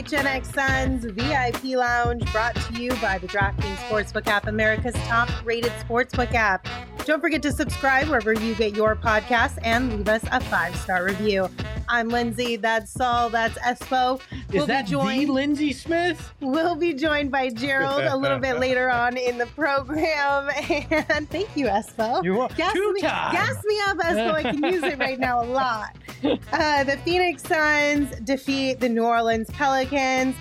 Gen X Suns VIP Lounge, brought to you by the DraftKings Sportsbook app, America's top-rated sportsbook app. Don't forget to subscribe wherever you get your podcasts and leave us a 5-star review. I'm Lindsay. That's Saul. That's Espo. Is that the Lindsay Smith? We'll be joined by Gerald a little bit later on in the program. And thank you, Espo. You're welcome. Gas me up, Espo. I can use it right now a lot. The Phoenix Suns defeat the New Orleans Pelicans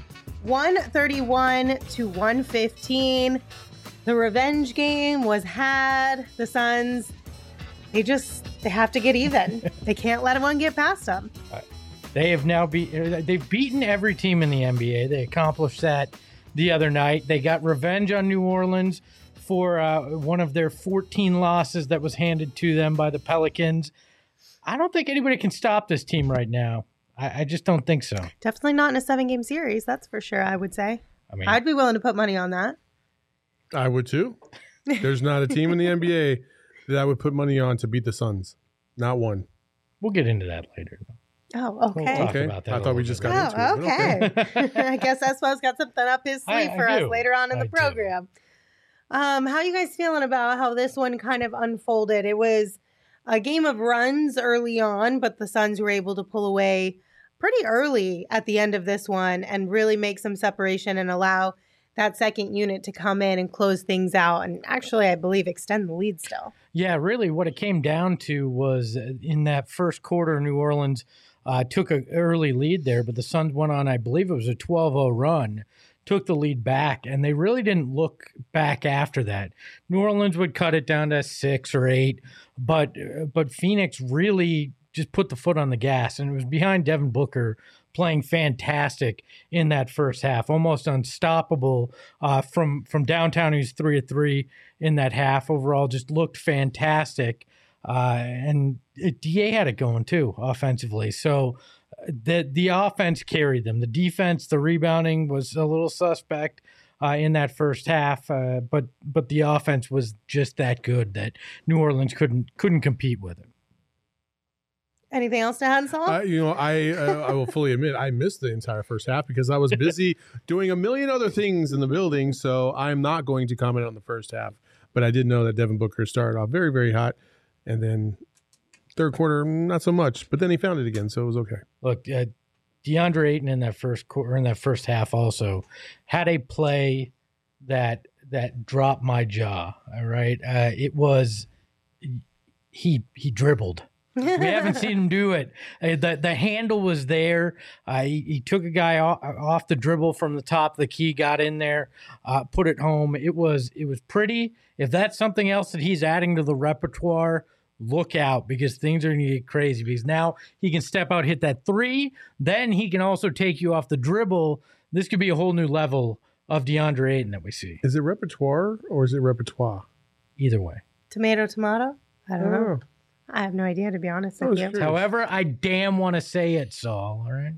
131-115. The revenge game was had. The Suns, they have to get even. They can't let one get past them. They have now they've beaten every team in the NBA. They accomplished that the other night. They got revenge on New Orleans for one of their 14 losses that was handed to them by the Pelicans. I don't think anybody can stop this team right now. I just don't think so. Definitely not in a 7-game series. That's for sure, I would say. I mean, I'd be willing to put money on that. I would too. There's not a team in the NBA that I would put money on to beat the Suns. Not one. We'll get into that later. Oh, okay. We'll talk about that. I thought we just got into it. Okay. I guess Espo's got something up his sleeve for us later on in the program. How you guys feeling about how this one kind of unfolded? It was a game of runs early on, but the Suns were able to pull away pretty early at the end of this one and really make some separation and allow that second unit to come in and close things out and actually, I believe, extend the lead still. Yeah, really what it came down to was in that first quarter, New Orleans took an early lead there, but the Suns went on, I believe it was a 12-0 run, took the lead back, and they really didn't look back after that. New Orleans would cut it down to 6 or 8, but Phoenix really just put the foot on the gas, and it was behind Devin Booker playing fantastic in that first half, almost unstoppable from downtown. He was 3 of 3 in that half. Overall, just looked fantastic, and DA had it going too offensively. So the offense carried them. The defense, the rebounding was a little suspect in that first half, but the offense was just that good that New Orleans couldn't compete with it. Anything else to add, Saul? I will fully admit I missed the entire first half because I was busy doing a million other things in the building. So I'm not going to comment on the first half. But I did know that Devin Booker started off very, very hot, and then third quarter not so much. But then he found it again, so it was okay. Look, DeAndre Ayton in that first quarter, in that first half, also had a play that dropped my jaw. All right, it was he dribbled. We haven't seen him do it. The handle was there. He took a guy off the dribble from the top of the key, got in there, put it home. It was pretty. If that's something else that he's adding to the repertoire, look out, because things are going to get crazy. Because now he can step out, hit that 3. Then he can also take you off the dribble. This could be a whole new level of DeAndre Ayton that we see. Is it repertoire or is it repertoire? Either way. Tomato. I don't know. I have no idea, to be honest with you. However, I damn want to say it, Saul. All right.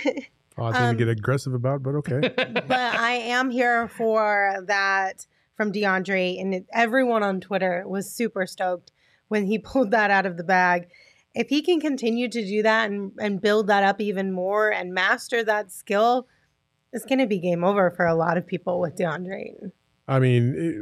I didn't get aggressive about, but okay. But I am here for that from DeAndre, and everyone on Twitter was super stoked when he pulled that out of the bag. If he can continue to do that and build that up even more and master that skill, it's going to be game over for a lot of people with DeAndre. I mean,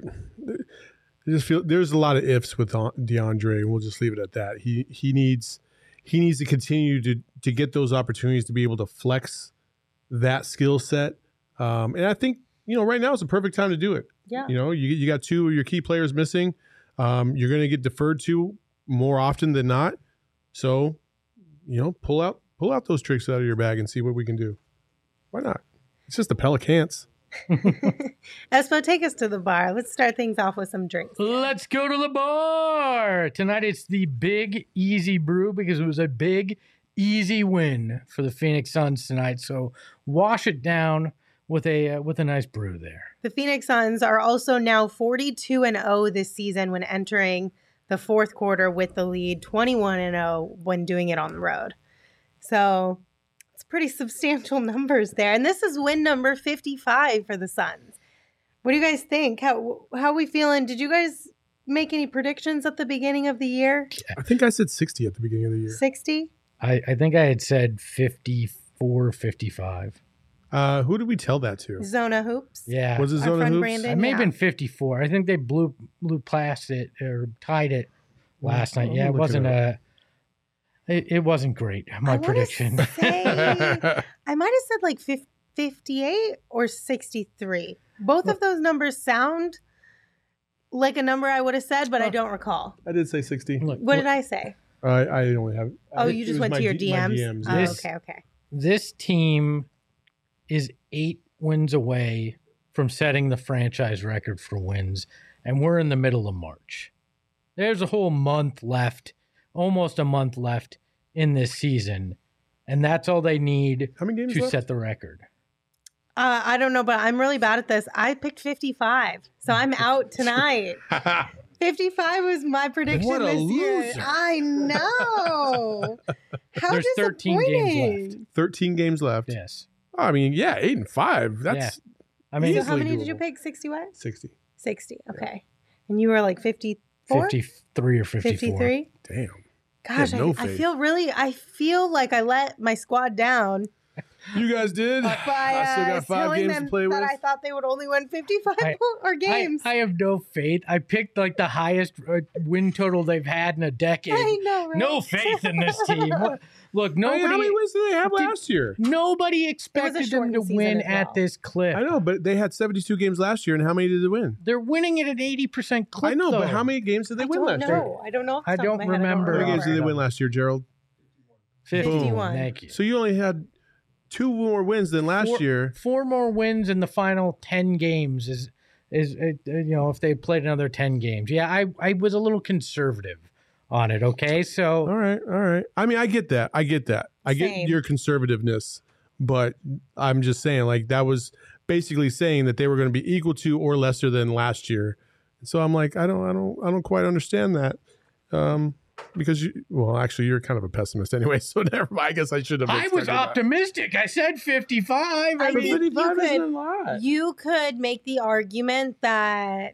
I just feel there's a lot of ifs with DeAndre, and we'll just leave it at that. He needs to continue to get those opportunities to be able to flex that skill set. And I think, right now is the perfect time to do it. Yeah. You got 2 of your key players missing. You're going to get deferred to more often than not. So, pull out those tricks out of your bag and see what we can do. Why not? It's just the Pelicans. Espo, take us to the bar. Let's start things off with some drinks. Let's go to the bar. Tonight it's the Big Easy Brew because it was a big, easy win for the Phoenix Suns tonight. So wash it down with a nice brew there. The Phoenix Suns are also now 42-0 this season when entering the fourth quarter with the lead, 21-0 when doing it on the road. So it's pretty substantial numbers there. And this is win number 55 for the Suns. What do you guys think? How are we feeling? Did you guys make any predictions at the beginning of the year? I think I said 60 at the beginning of the year. 60? I think I had said 54, 55. Who did we tell that to? Zona Hoops. Yeah. Was it Our Zona friend Hoops? Brandon. It may have been 54. I think they blew past it or tied it last night. Yeah, it wasn't it wasn't great. My prediction. I might have said like 58 or 63. Both of those numbers sound like a number I would have said, but I don't recall. I did say 60. What did I say? I only have. You just went to your DMs? DMs. Okay. This team is 8 wins away from setting the franchise record for wins, and we're in the middle of March. There's a whole month left, almost a month left in this season, and that's all they need to set the record. I don't know, but I'm really bad at this. I picked 55, so I'm out tonight. 55 was my prediction What a this year. loser. I know. How There's 13 games left. 13 games left. Yes. I mean, 8-5. That's I mean, So how many easily did you doable. pick? 60 what? 60. 60. Okay. And you were like 54? 53 or 54. 53? Damn. Gosh, Yeah, no I faith. I feel like I let my squad down You guys did. by I still got 5 telling games them to play with. that I thought they would only win 55 or games. I have no faith. I picked like the highest win total they've had in a decade. I know, right? No faith in this team. Look, How many nobody wins did they have last year? expected them to shortened season win as well. at this clip. I know, but they had 72 games last year, and how many did they win? They're winning it at 80% clip. I know, though. but how many games did they I win don't last year? know. I don't know. off the I top of don't my head. remember. How many games did they Right. win last year, Gerald? 51. Thank you. So you only had 2 more wins than last year. 4 more wins in the final 10 games is if they played another 10 games. Yeah, I was a little conservative on it. Okay, so All right. I mean, I get that. I get Same. your conservativeness, but I'm just saying, like, that was basically saying that they were going to be equal to or lesser than last year. So I'm like, I don't quite understand that. Because you're kind of a pessimist anyway. So never mind. I guess I should have. I was expected that. optimistic. I said 55. I But think 55 isn't a lot. you could make the argument that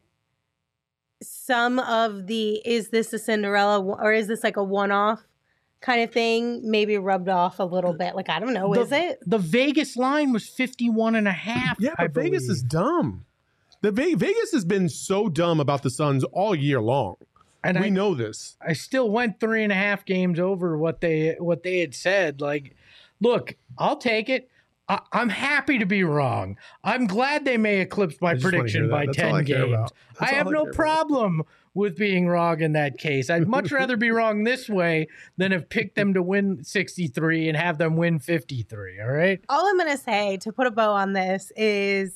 some of is this a Cinderella or is this like a one-off kind of thing maybe rubbed off a little bit? Like, I don't know. Is it? The Vegas line was 51.5. Yeah, but Vegas is dumb. Vegas has been so dumb about the Suns all year long. And we know this. I still went 3.5 games over what they had said. Like, look, I'll take it. I'm happy to be wrong. I'm glad they may eclipse my prediction by 10 games. I have no problem with being wrong in that case. I'd much rather be wrong this way than have picked them to win 63 and have them win 53. All right. All I'm going to say to put a bow on this is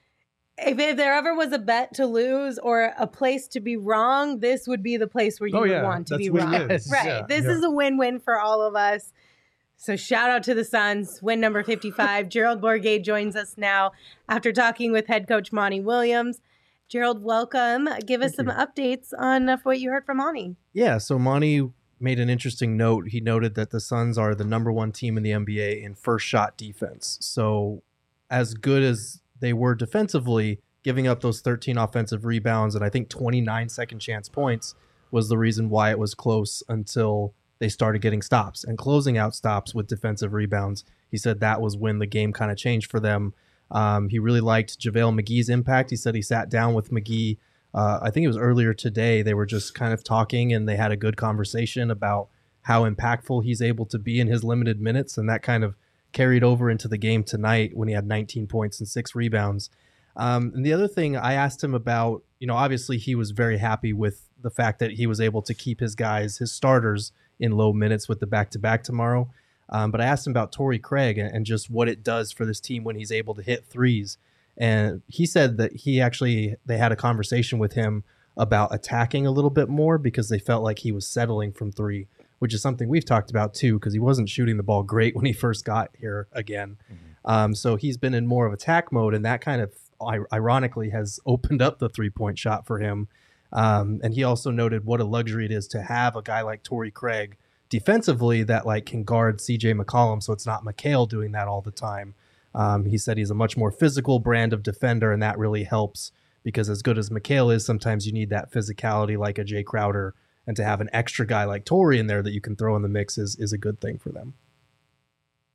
if there ever was a bet to lose or a place to be wrong, this would be the place where you would want to be wrong. Yes. Right. Yeah. This is a win-win for all of us. So shout out to the Suns, win number 55. Gerald Bourguet joins us now after talking with head coach Monty Williams. Gerald, welcome. Give us some updates on what you heard from Monty. Yeah, so Monty made an interesting note. He noted that the Suns are the number 1 team in the NBA in first shot defense. So as good as they were defensively, giving up those 13 offensive rebounds and I think 29 second chance points was the reason why it was close until they started getting stops and closing out stops with defensive rebounds. He said that was when the game kind of changed for them. He really liked JaVale McGee's impact. He said he sat down with McGee. I think it was earlier today. They were just kind of talking and they had a good conversation about how impactful he's able to be in his limited minutes. And that kind of carried over into the game tonight when he had 19 points and 6 rebounds. And the other thing I asked him about, obviously he was very happy with the fact that he was able to keep his guys, his starters, in low minutes with the back-to-back tomorrow. But I asked him about Torrey Craig and just what it does for this team when he's able to hit threes. And he said that they had a conversation with him about attacking a little bit more because they felt like he was settling from 3, which is something we've talked about too, because he wasn't shooting the ball great when he first got here again. Mm-hmm. So he's been in more of attack mode, and that kind of ironically has opened up the 3-point shot for him. And he also noted what a luxury it is to have a guy like Torrey Craig defensively that can guard CJ McCollum, so it's not Mikal doing that all the time. He said he's a much more physical brand of defender, and that really helps because as good as Mikal is, sometimes you need that physicality like a Jay Crowder, and to have an extra guy like Torrey in there that you can throw in the mix is a good thing for them.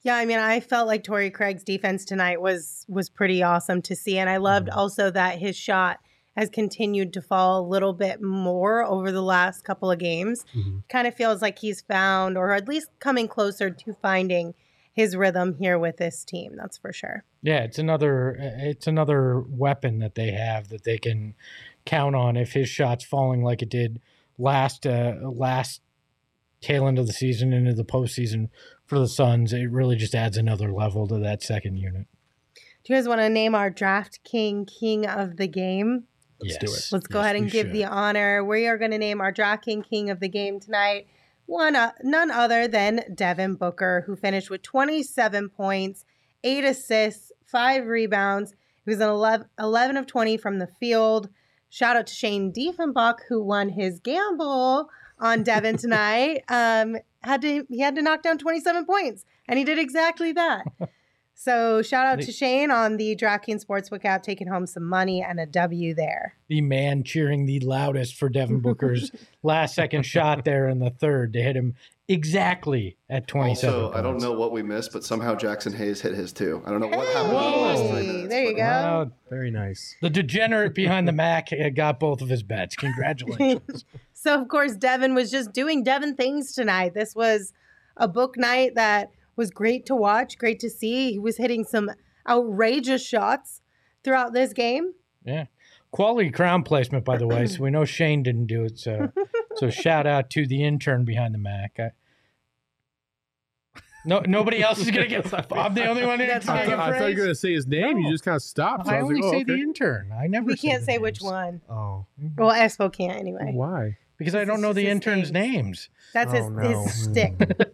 Yeah, I mean, I felt like Torrey Craig's defense tonight was pretty awesome to see. And I loved also that his shot has continued to fall a little bit more over the last couple of games. Kind of feels like he's found, or at least coming closer to finding his rhythm here with this team. That's for sure. Yeah, it's another weapon that they have that they can count on if his shot's falling like it did last tail end of the season into the postseason for the Suns. It really just adds another level to that second unit. Do you guys want to name our Draft King of the game? Let's do it. Let's go ahead and give the honor. We are going to name our Draft King of the game tonight. None other than Devin Booker, who finished with 27 points, 8 assists, 5 rebounds. He was an 11 of 20 from the field. Shout out to Shane Diefenbach, who won his gamble on Devin tonight. He had to knock down 27 points, and he did exactly that. So shout out to Shane on the DraftKings Sportsbook app, taking home some money and a W there. The man cheering the loudest for Devin Booker's last second shot there in the third to hit him exactly at 27 Also, points. I don't know what we missed, but somehow Jackson Hayes hit his too. I don't know what happened in the last 3 minutes. There you go. Wow, Very nice. the degenerate behind the Mac got both of his bets. Congratulations. So, of course, Devin was just doing Devin things tonight. This was a book night that was great to watch, great to see. He was hitting some outrageous shots throughout this game. Yeah. Quality crown placement, by the way. So we know Shane didn't do it. So shout out to the intern behind the Mac. Nobody else is going to get. I'm the only one who That's gets right. I thought you were going to say his name. No. You just kind of stopped. So I was only like, say okay. the intern. I never. We can't the say names. which one. Oh. Well, Espo can't anyway. Why? Because I don't know the interns' names. That's Oh, no. his stick.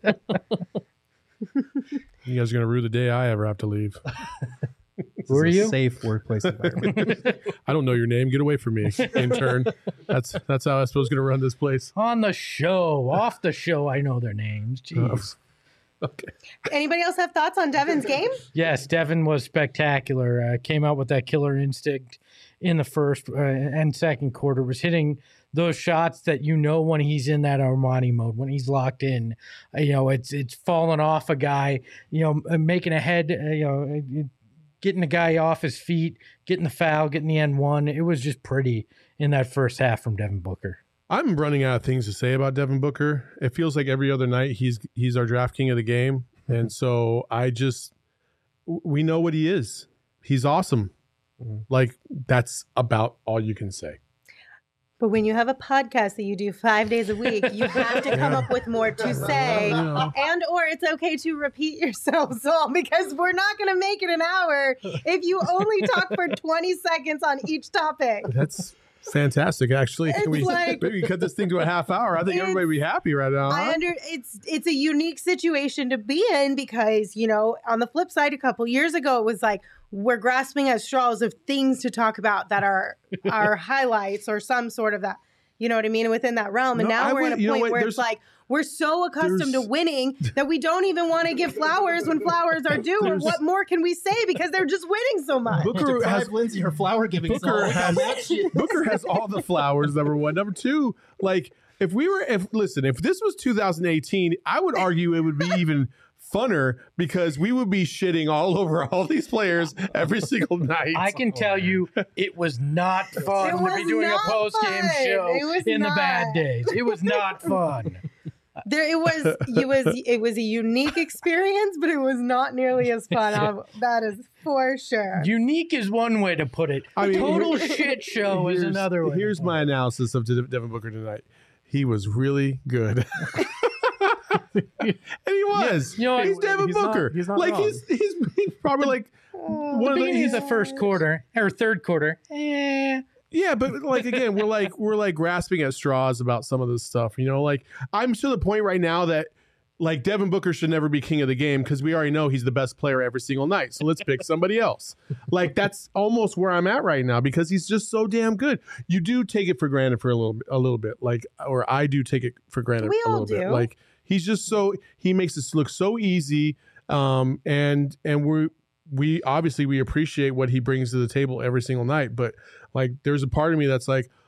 You guys are going to rue the day I ever have to leave. Who are you? Safe workplace environment. I don't know your name. Get away from me, intern. That's how I suppose going to run this place. On the show, off the show, I know their names. Jeez. Okay. Anybody else have thoughts on Devin's game? Yes, Devin was spectacular. Came out with that killer instinct in the first and second quarter. Was hitting those shots that when he's in that Armani mode, when he's locked in. It's falling off a guy. Making a head. Getting the guy off his feet, getting the foul, getting the N1. It was just pretty in that first half from Devin Booker. I'm running out of things to say about Devin Booker. It feels like every other night he's our draft king of the game. And so we know what he is. He's awesome. Like, that's about all you can say. But when you have a podcast that you do 5 days a week, you have to come up with more to say, or it's okay to repeat yourselves all, because we're not going to make it an hour if you only talk for 20 seconds on each topic. That's fantastic. Actually, It's can we like- maybe cut this thing to a half hour? I think everybody would be happy right now. Huh? It's a unique situation to be in, because on the flip side, a couple years ago it was like we're grasping at straws of things to talk about that are highlights or some sort of that, you know what I mean, within that realm. And No, now we're in a point where it's There's- like we're so accustomed to winning that we don't even want to give flowers when flowers are due. Or what more can we say, because they're just winning so much? Booker has Lindsay her flower giving. Booker has all the flowers. Number one, number two. Like if this was 2018, I would argue it would be even funner, because we would be shitting all over all these players every single night. I can tell you, it was not fun to be doing a not post-game fun. show It was in the bad not. days. It was not fun. It was a unique experience, but it was not nearly as fun. That is for sure. Unique is one way to put it. I mean, Total shit show is another way. Here's my analysis of Devin Booker tonight. He was really good. And he was. He's Devin Booker. He's not like wrong. he's probably like one of Beginning of the the first quarter or third quarter. Yeah, but like again, we're like grasping at straws about some of this stuff. Like I'm to the point right now that like Devin Booker should never be king of the game, because we already know he's the best player every single night. So let's pick somebody else. Like that's almost where I'm at right now, because he's just so damn good. You do take it for granted for a little bit, like, or I do take it for granted We a all little bit. do. Like he's just he makes this look so easy. And we obviously we appreciate what he brings to the table every single night, but like there's a part of me that's like,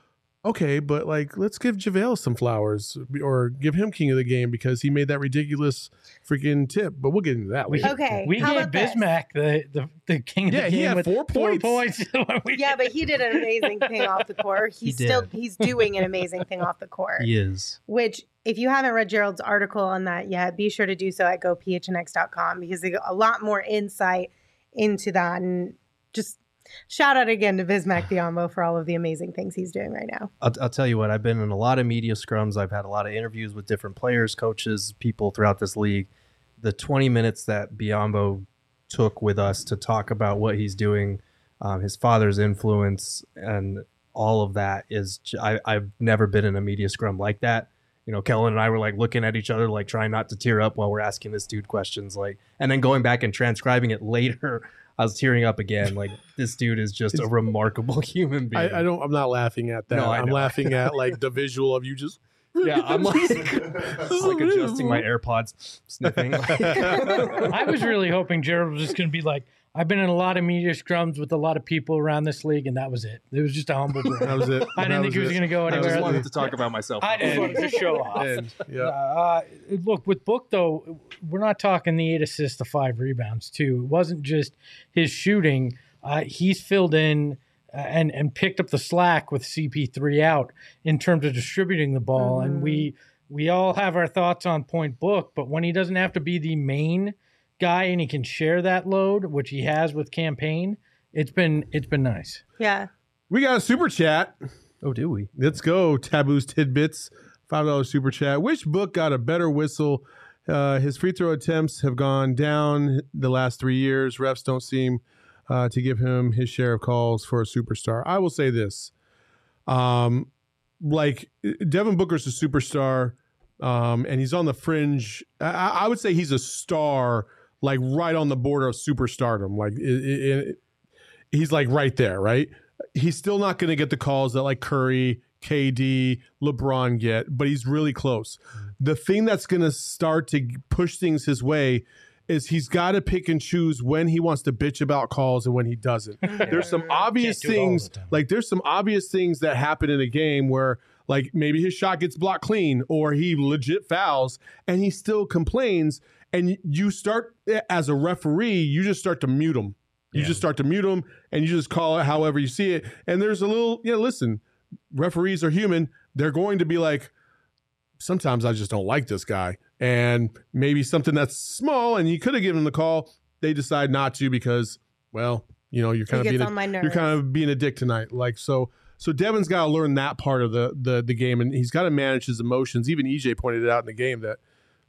Okay, but like, let's give JaVale some flowers or give him king of the game because he made that ridiculous freaking tip. But we'll get into that later. Okay. We how gave about this? Bismack the king of the game. he had with 4 points. Yeah, but he did an amazing thing off the court. He's doing an amazing thing off the court. He is. Which, if you haven't read Gerald's article on that yet, be sure to do so at gophnx.com because they got a lot more insight into that. And just shout out again to Bismack Biyombo for all of the amazing things he's doing right now. I'll tell you what, I've been in a lot of media scrums. I've had a lot of interviews with different players, coaches, people throughout this league. The 20 minutes that Biyombo took with us to talk about what he's doing, his father's influence, and all of that is, I've never been in a media scrum like that. You know, Kellen and I were like looking at each other, like trying not to tear up while we're asking this dude questions, like, and then going back and transcribing it later. I was tearing up again. Like, this dude is just a remarkable human being. I'm not laughing at that. No, I'm laughing at like the visual of you just. Yeah, I'm like adjusting my AirPods, sniffing. I was really hoping Gerald was just going to be like, I've been in a lot of media scrums with a lot of people around this league, and that was it. It was just a humble brag. That was it. I didn't think he was going to go I anywhere. just wanted to talk about myself. I just wanted to show off. Yeah. Look, with Book, though, we're not talking the 8 assists, the 5 rebounds, too. It wasn't just his shooting. He's filled in and picked up the slack with CP3 out in terms of distributing the ball. And we all have our thoughts on Point Book, but when he doesn't have to be the main guy and he can share that load, which he has with Campaign, it's been nice. Yeah. We got a super chat. Oh, do we? Let's go. Taboo's Tidbits, $5 super chat. Which Book got a better whistle? His free throw attempts have gone down the last 3 years. Refs don't seem to give him his share of calls for a superstar. I will say this. Like, Devin Booker's a superstar, and he's on the fringe. I would say he's a star, like right on the border of superstardom. Like he's like right there, right? He's still not going to get the calls that like Curry, KD, LeBron get, but he's really close. The thing that's going to start to push things his way is he's got to pick and choose when he wants to bitch about calls and when he doesn't. There's some obvious things, like there's some obvious things that happen in a game where like maybe his shot gets blocked clean or he legit fouls and he still complains. And you start, as a referee, you just start to mute him. You just start to mute him and you just call it however you see it. And there's a little, listen, referees are human. They're going to be like, sometimes I just don't like this guy. And maybe something that's small and you could have given him the call, they decide not to because, well, you're kind of being a dick tonight. Like, so Devin's got to learn that part of the game, and he's got to manage his emotions. Even EJ pointed it out in the game that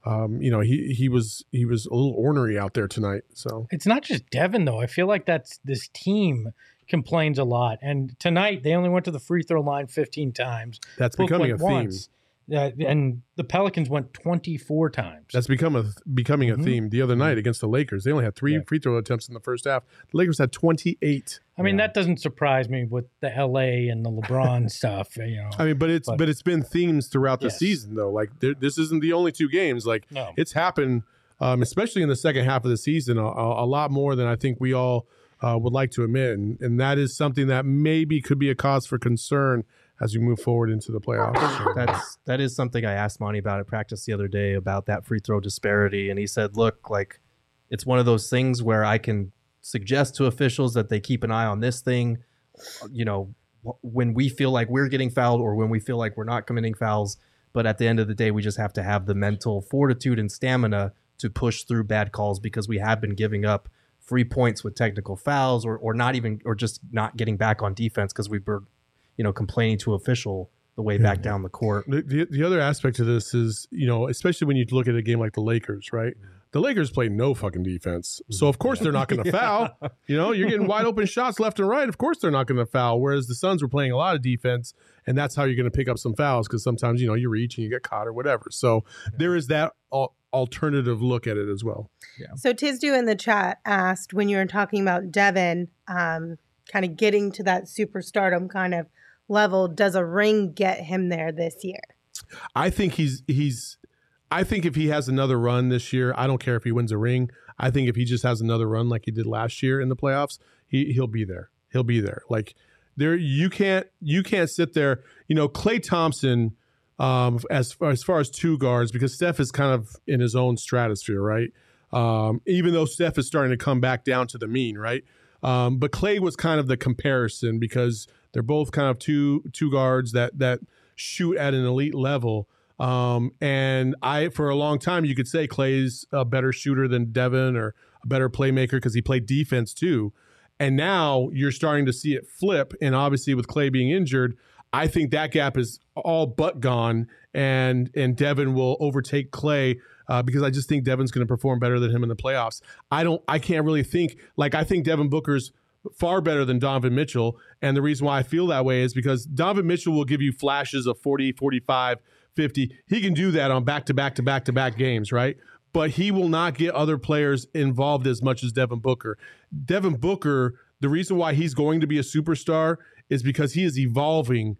he was a little ornery out there tonight. So it's not just Devin though. I feel like this team complains a lot, and tonight they only went to the free throw line 15 times. That's becoming a theme. Once. And the Pelicans went 24 times. That's becoming a theme. The other night against the Lakers, they only had 3 free throw attempts in the first half. The Lakers had 28. I mean, that doesn't surprise me with the LA and the LeBron stuff. I mean, but it's been themes throughout the season though. Like this isn't the only 2 games. Like it's happened, especially in the second half of the season, a lot more than I think we all would like to admit, and that is something that maybe could be a cause for concern as we move forward into the playoffs. That is something I asked Monty about at practice the other day about that free throw disparity. And he said, look, like it's one of those things where I can suggest to officials that they keep an eye on this thing, when we feel like we're getting fouled or when we feel like we're not committing fouls. But at the end of the day, we just have to have the mental fortitude and stamina to push through bad calls because we have been giving up free points with technical fouls or just not getting back on defense because we were complaining to official the way back down the court. The other aspect of this is, especially when you look at a game like the Lakers, right? The Lakers play no fucking defense. So, of course, they're not going to foul. You're getting wide open shots left and right. Of course, they're not going to foul. Whereas the Suns were playing a lot of defense, and that's how you're going to pick up some fouls because sometimes, you reach and you get caught or whatever. So there is that alternative look at it as well. Yeah. So Tizdu in the chat asked, when you were talking about Devin kind of getting to that superstardom kind of level, does a ring get him there this year? I think I think if he has another run this year, I don't care if he wins a ring. I think if he just has another run like he did last year in the playoffs, he'll be there. He'll be there. Like you can't sit there. Klay Thompson, as far as two guards, because Steph is kind of in his own stratosphere, right? Even though Steph is starting to come back down to the mean, right? But Klay was kind of the comparison because they're both kind of two guards that shoot at an elite level. And for a long time, you could say Klay's a better shooter than Devin or a better playmaker because he played defense too. And now you're starting to see it flip. And obviously with Klay being injured, I think that gap is all but gone. And Devin will overtake Klay because I just think Devin's going to perform better than him in the playoffs. I can't really think, I think Devin Booker's far better than Donovan Mitchell. And the reason why I feel that way is because Donovan Mitchell will give you flashes of 40, 45, 50. He can do that on back-to-back games, right? But he will not get other players involved as much as Devin Booker. Devin Booker, the reason why he's going to be a superstar is because he is evolving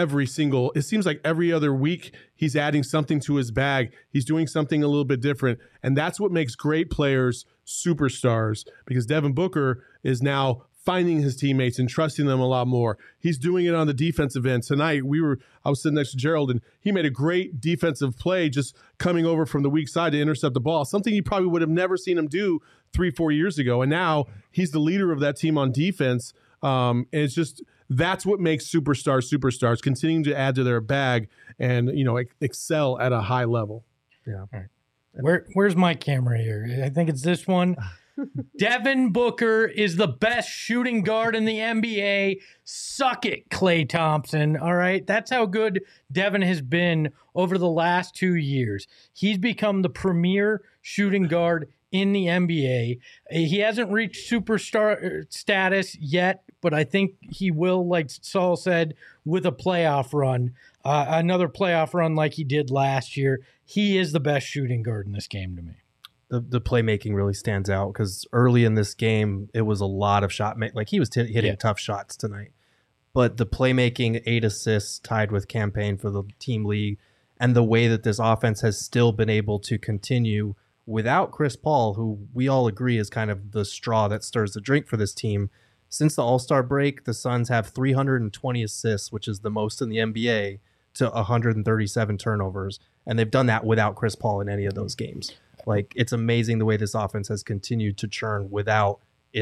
it seems like every other week he's adding something to his bag. He's doing something a little bit different. And that's what makes great players superstars, because Devin Booker is now finding his teammates and trusting them a lot more. He's doing it on the defensive end. Tonight, I was sitting next to Gerald, and he made a great defensive play just coming over from the weak side to intercept the ball, something you probably would have never seen him do 3-4 years ago. And now he's the leader of that team on defense. And it's just, that's what makes superstars, continuing to add to their bag and, excel at a high level. Yeah. All right. Where's my camera here? I think it's this one. Devin Booker is the best shooting guard in the NBA. Suck it, Klay Thompson. All right. That's how good Devin has been over the last 2 years. He's become the premier shooting guard in the NBA. He hasn't reached superstar status yet, but I think he will, like Saul said, with a playoff run, another playoff run like he did last year. He is the best shooting guard in this game to me. The playmaking really stands out because early in this game, it was a lot of shot make. Like he was hitting tough shots tonight. But the playmaking, 8 assists tied with campaign for the team league, and the way that this offense has still been able to continue without Chris Paul, who we all agree is kind of the straw that stirs the drink for this team. Since the All-Star break, the Suns have 320 assists, which is the most in the NBA, to 137 turnovers. And they've done that without Chris Paul in any of those games. It's amazing the way this offense has continued to churn without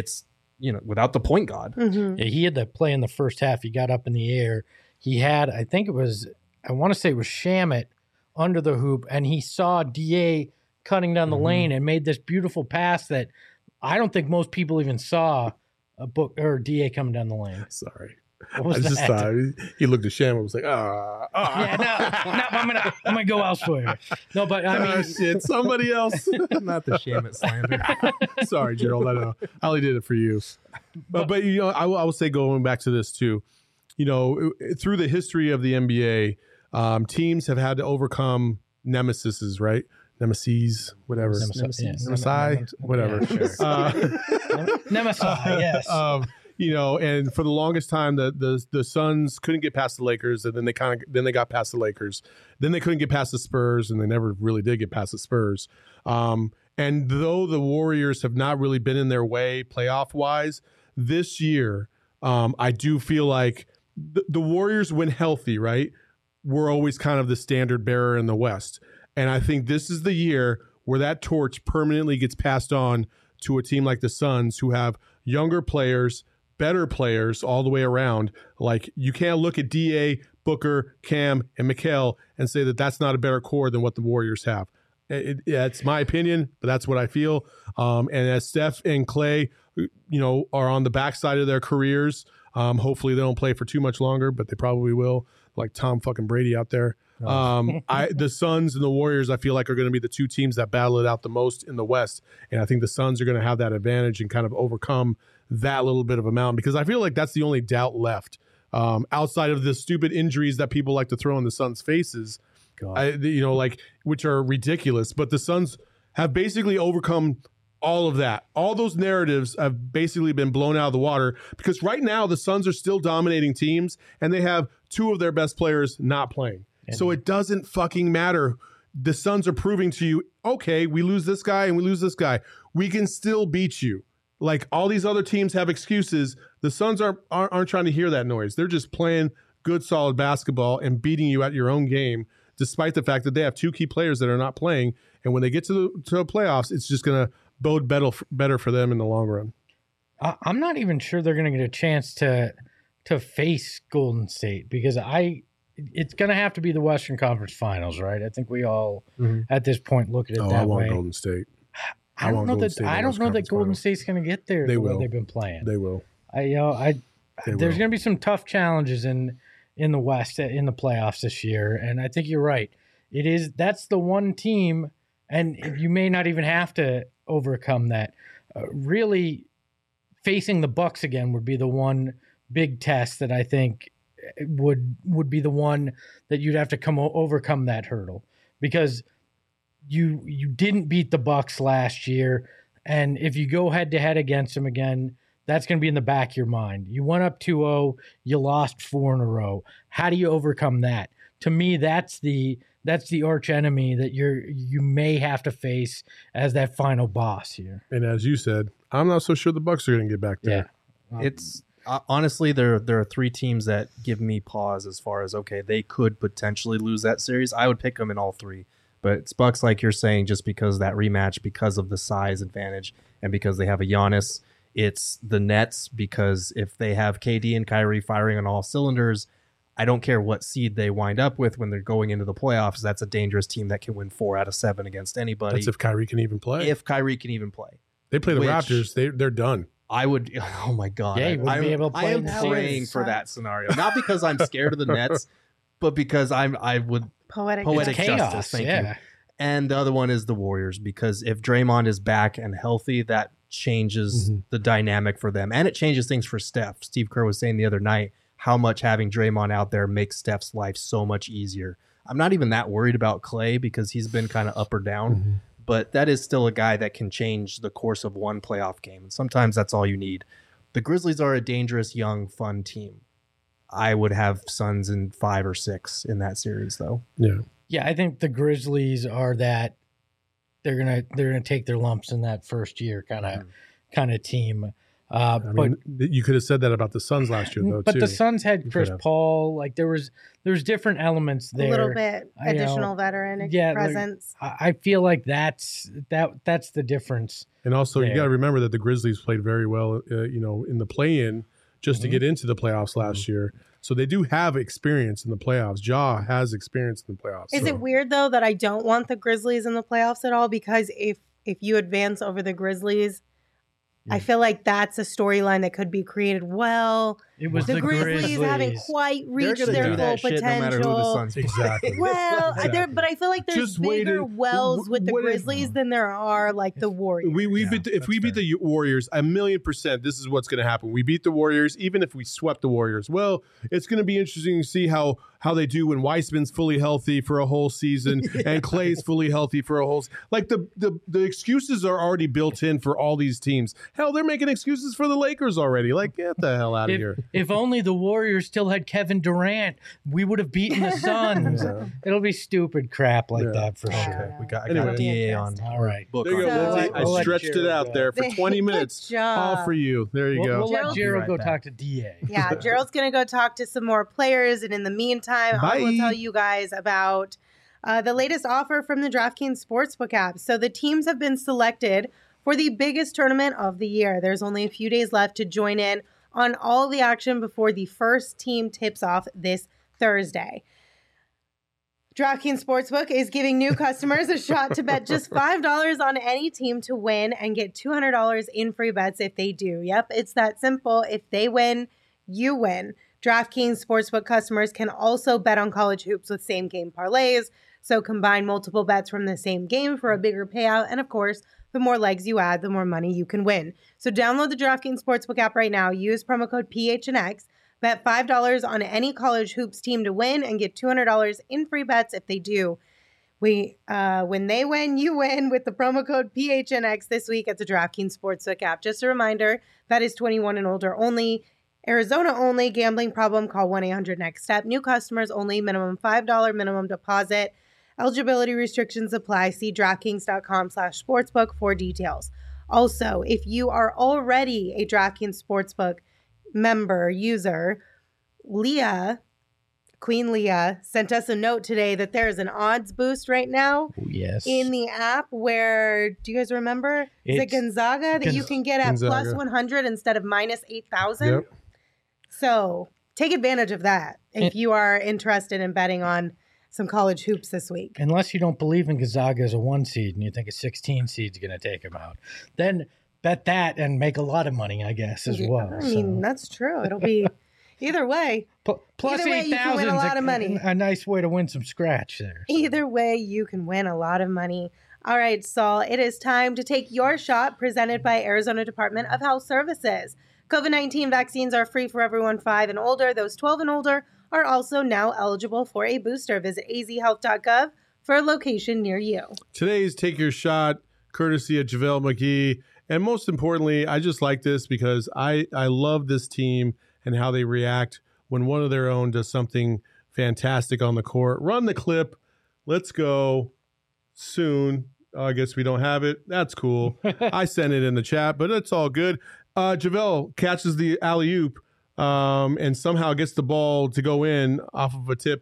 the point guard. Mm-hmm. Yeah, he had that play in the first half. He got up in the air. He had, I want to say it was Shamet under the hoop, and he saw DA cutting down the lane and made this beautiful pass that I don't think most people even saw DA coming down the lane. Sorry. What was I just thought he looked at Sham and was like, Yeah, no, I'm gonna go elsewhere. No, but I mean, shit, somebody else. Not the Shamet slander. Sorry, Gerald. I know. I only did it for you. But I will say, going back to this too, through the history of the NBA, teams have had to overcome nemesises, right? Nemesis, whatever. Nemesis, whatever. Nemesis, yes. And for the longest time, the Suns couldn't get past the Lakers, and then they got past the Lakers. Then they couldn't get past the Spurs, and they never really did get past the Spurs. And though the Warriors have not really been in their way playoff wise this year, I do feel like the Warriors, when healthy, right, were always kind of the standard bearer in the West. And I think this is the year where that torch permanently gets passed on to a team like the Suns, who have younger players, better players all the way around. Like, you can't look at DA, Booker, Cam, and Mikal and say that that's not a better core than what the Warriors have. It's my opinion, but that's what I feel. And as Steph and Klay, are on the backside of their careers, hopefully they don't play for too much longer, but they probably will, like Tom fucking Brady out there. The Suns and the Warriors, I feel like, are going to be the two teams that battle it out the most in the West. And I think the Suns are going to have that advantage and kind of overcome that little bit of a mountain, because I feel like that's the only doubt left outside of the stupid injuries that people like to throw in the Suns' faces, which are ridiculous. But the Suns have basically overcome all of that. All those narratives have basically been blown out of the water, because right now the Suns are still dominating teams and they have two of their best players not playing. So it doesn't fucking matter. The Suns are proving to you, okay, we lose this guy and we lose this guy, we can still beat you. like all these other teams have excuses. The Suns aren't trying to hear that noise. They're just playing good, solid basketball and beating you at your own game, despite the fact that they have 2 key players that are not playing. And when they get to the playoffs, it's just going to bode better for them in the long run. I'm not even sure they're going to get a chance to face Golden State because it's going to have to be the Western Conference Finals, right? I think we all at this point look at it that way. I want Golden State. I don't know that Golden State's going to get there. They the will. way they've been playing. They will. There's going to be some tough challenges in the West in the playoffs this year, and I think you're right. That's the one team, and you may not even have to overcome that. Really, facing the Bucks again would be the one big test that I think would be the one that you'd have to overcome that hurdle because you didn't beat the Bucks last year, and if you go head to head against them again, that's going to be in the back of your mind. You went up 2-0, you lost 4 in a row. How do you overcome that? To me, that's the arch enemy that you may have to face as that final boss here. And as you said, I'm not so sure the Bucks are going to get back there. Yeah. It's honestly there are 3 teams that give me pause as far as okay, they could potentially lose that series. I would pick them in all 3. But it's Bucks, like you're saying, just because that rematch, because of the size advantage, and because they have a Giannis. It's the Nets, because if they have KD and Kyrie firing on all cylinders, I don't care what seed they wind up with when they're going into the playoffs. That's a dangerous team that can win 4 out of 7 against anybody. That's if Kyrie can even play. If Kyrie can even play. They play the Raptors, they're done. I would, oh my God. Yeah, I am praying series. for that scenario. Not because I'm scared of the Nets, but because I would Poetic justice. Thank you. And the other one is the Warriors, because if Draymond is back and healthy, that changes the dynamic for them. And it changes things for Steph. Steve Kerr was saying the other night how much having Draymond out there makes Steph's life so much easier. I'm not even that worried about Clay because he's been kind of up or down, but that is still a guy that can change the course of one playoff game. And sometimes that's all you need. The Grizzlies are a dangerous, young, fun team. I would have Suns in 5 or 6 in that series, though. Yeah, I think the Grizzlies are that they're gonna take their lumps in that first year kind of team. But you could have said that about the Suns last year, though. But the Suns had Chris Paul. Like there was different elements there. A little bit additional veteran presence. Like, I feel like that's the difference. And also, you got to remember that the Grizzlies played very well, in the play-in just to get into the playoffs last year. So they do have experience in the playoffs. Ja has experience in the playoffs. Is it weird, though, that I don't want the Grizzlies in the playoffs at all? Because if you advance over the Grizzlies, I feel like that's a storyline that could be created well. It was the Grizzlies haven't quite reached their full potential. No matter who the Suns exactly. Well, but I feel like there's bigger wells with the Grizzlies than there are like the Warriors. If we beat the Warriors, 1,000,000%, this is what's going to happen. We beat the Warriors, even if we swept the Warriors. Well, it's going to be interesting to see how they do when Weissman's fully healthy for a whole season and Clay's fully healthy for a whole season. Like the excuses are already built in for all these teams. Hell, they're making excuses for the Lakers already. Like, get the hell out of here. If only the Warriors still had Kevin Durant, we would have beaten the Suns. It'll be stupid crap like that for sure. I got DA on. All right. There you go, Lindsay. I stretched it out there for 20 minutes. All for you. There you go. We'll let Gerald go talk to DA. Yeah, Gerald's going to go talk to some more players. And in the meantime, I will tell you guys about the latest offer from the DraftKings Sportsbook app. So the teams have been selected for the biggest tournament of the year. There's only a few days left to join in on all the action before the first team tips off this Thursday. DraftKings Sportsbook is giving new customers a shot to bet just $5 on any team to win and get $200 in free bets if they do. Yep, it's that simple. If they win, you win. DraftKings Sportsbook customers can also bet on college hoops with same-game parlays, so combine multiple bets from the same game for a bigger payout, and of course, the more legs you add, the more money you can win. So download the DraftKings Sportsbook app right now. Use promo code PHNX. Bet $5 on any college hoops team to win and get $200 in free bets if they do. When they win, you win with the promo code PHNX this week at the DraftKings Sportsbook app. Just a reminder, that is 21 and older only. Arizona only. Gambling problem, call 1-800-NEXT-STEP. New customers only. Minimum $5 minimum deposit. Eligibility restrictions apply. See DraftKings.com/sportsbook for details. Also, if you are already a DraftKings Sportsbook member, user, Queen Leah sent us a note today that there is an odds boost right now in the app where, do you guys remember? Is it Gonzaga that you can get at plus 100 instead of minus 8,000? Yep. So take advantage of that if you are interested in betting on some college hoops this week. Unless you don't believe in Gonzaga as a 1 seed and you think a 16 seed is going to take them out. Then bet that and make a lot of money, I guess, as well. I mean, that's true. It'll be... Either way, plus either way, you can win a lot of money. A nice way to win some scratch there. So. Either way, you can win a lot of money. All right, Saul, it is time to take your shot, presented by Arizona Department of Health Services. COVID-19 vaccines are free for everyone 5 and older. Those 12 and older are also now eligible for a booster. Visit azhealth.gov for a location near you. Today's Take Your Shot, courtesy of JaVale McGee. And most importantly, I just like this because I love this team and how they react when one of their own does something fantastic on the court. Run the clip. Let's go soon. I guess we don't have it. That's cool. I sent it in the chat, but it's all good. JaVale catches the alley-oop and somehow gets the ball to go in off of a tip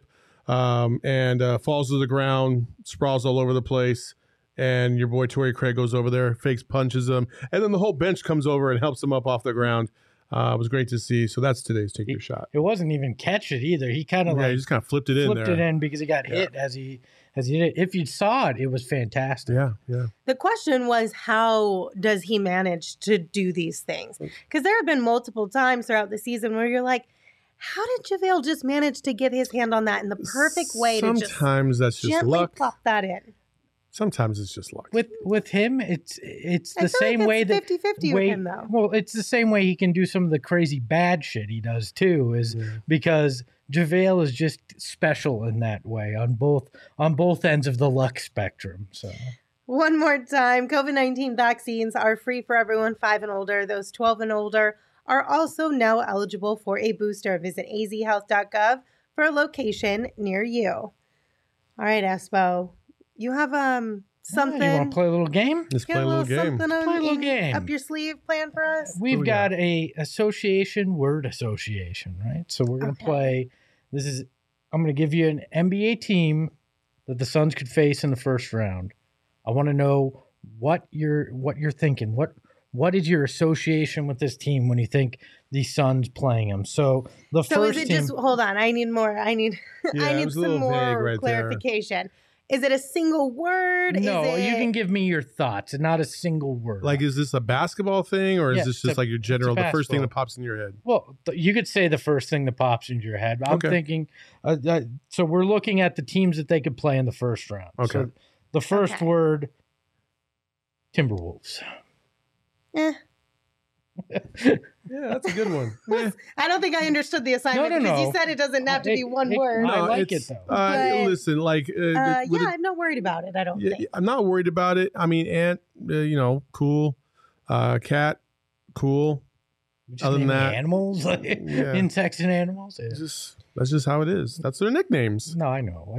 and falls to the ground, sprawls all over the place. And your boy Torrey Craig goes over there, fakes punches him. And then the whole bench comes over and helps him up off the ground. It was great to see. So that's today's Take Your Shot. It wasn't even catch it either. He kind of he just kind of flipped it in there. Flipped it in because he got hit as he did it. If you saw it, it was fantastic. Yeah. The question was, how does he manage to do these things? Because there have been multiple times throughout the season where you're like, how did JaVale just manage to get his hand on that in the perfect way Sometimes that's just gently luck. plop that in? Sometimes it's just luck. With him, it's the same way that 50-50 with him, though. Well, it's the same way he can do some of the crazy bad shit he does too, because JaVale is just special in that way on both ends of the luck spectrum. So one more time, COVID-19 vaccines are free for everyone 5 and older. Those 12 and older are also now eligible for a booster. Visit azhealth.gov for a location near you. All right, Espo. You have something. You want to play a little game? Let's play a little game. Something play a little game up your sleeve planned for us? We've got a word association, right? So we're going to play. I'm going to give you an NBA team that the Suns could face in the first round. I want to know what you're thinking. What is your association with this team when you think the Suns playing them? So first is it team, just hold on? I need more. I need some more clarification. There. Is it a single word? No, you can give me your thoughts and not a single word. Like, is this a basketball thing or is this just like your general, the first thing that pops in your head? Well, you could say the first thing that pops into your head. I'm thinking, so we're looking at the teams that they could play in the first round. Okay. So the first word, Timberwolves. Yeah, that's a good one. I don't think I understood the assignment because you said it doesn't have to be one word. I like it though. Listen, like, I'm not worried about it. I don't think. I'm not worried about it. I mean, Ant, cool. Cat, cool. Other than that, animals, insects and animals. Yeah. That's just how it is. That's their nicknames. No, I know.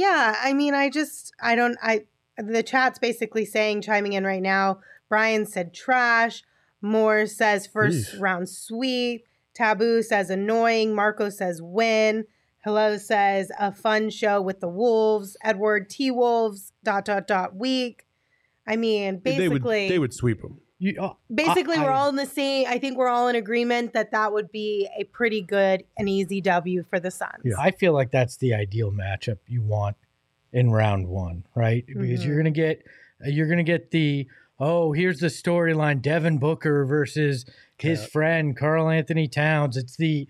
The chat's basically chiming in right now. Brian said trash. Moore says first round sweep. Taboo says annoying. Marco says win. Hello says a fun show with the Wolves. Edward T Wolves ... week. I mean, basically they would sweep them. We're all in the same. I think we're all in agreement that would be a pretty good and easy W for the Suns. Yeah. I feel like that's the ideal matchup you want in round one, right? Because you're gonna get the here's the storyline: Devin Booker versus his friend Karl Anthony Towns. It's the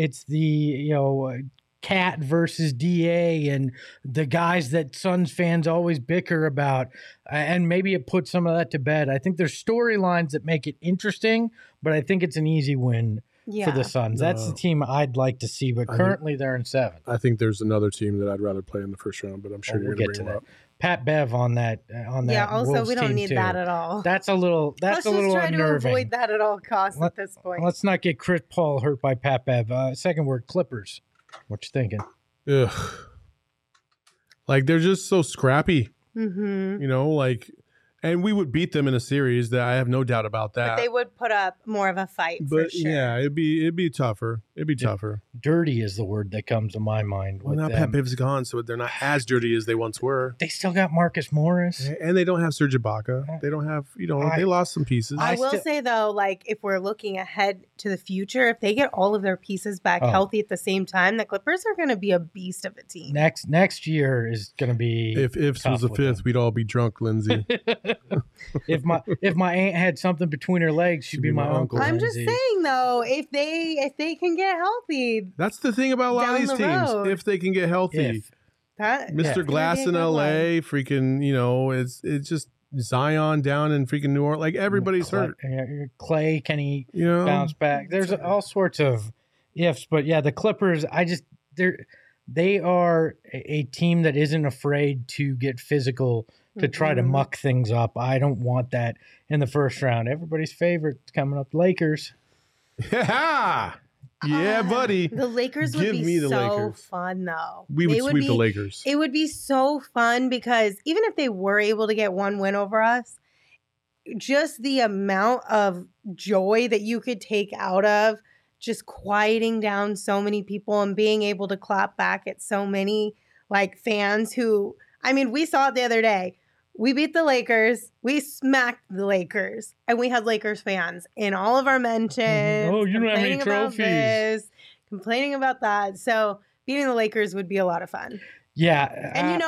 Cat versus DA and the guys that Suns fans always bicker about, and maybe it puts some of that to bed. I think there's storylines that make it interesting, but I think it's an easy win for the Suns. That's the team I'd like to see, but currently they're in 7th. I think there's another team that I'd rather play in the first round, but I'm sure you're going to bring them up. Pat Bev on that. Yeah. Also, Wolves we don't need too. that at all. That's a little. That's a little try unnerving. to avoid that at all costs at this point. Let's not get Chris Paul hurt by Pat Bev. Second word, Clippers. What you thinking? Ugh. Like, they're just so scrappy. Mm-hmm. Like And we would beat them in a series. That I have no doubt about that. But they would put up more of a fight. But for sure. yeah, it'd be tougher. It'd be tougher. Dirty is the word that comes to my mind. Well, now Pat Biv's gone, so they're not as dirty as they once were. They still got Marcus Morris, and they don't have Serge Ibaka. They don't have, they lost some pieces. I will say though, like if we're looking ahead to the future, if they get all of their pieces back healthy at the same time, the Clippers are going to be a beast of a team. Next year is going to be. If Ifs was a fifth, we'd all be drunk, Lindsay. If my aunt had something between her legs, she'd be my uncle. I'm just saying though, if they can get healthy, that's the thing about a lot of these teams. If they can get healthy, Mr. Glass in LA, freaking, it's just Zion down in freaking New Orleans. Like everybody's hurt. Clay, can he bounce back? There's all sorts of ifs, but yeah, the Clippers. They are a team that isn't afraid to get physical to try to muck things up. I don't want that in the first round. Everybody's favorite coming up, Lakers. Yeah, buddy. The Lakers would be so fun, though. We would sweep the Lakers. It would be so fun because even if they were able to get one win over us, just the amount of joy that you could take out of just quieting down so many people and being able to clap back at so many like fans who, I mean, we saw it the other day. We beat the Lakers. We smacked the Lakers. And we had Lakers fans in all of our mentions. Oh, you don't have any trophies. Complaining about that. So beating the Lakers would be a lot of fun. Yeah. And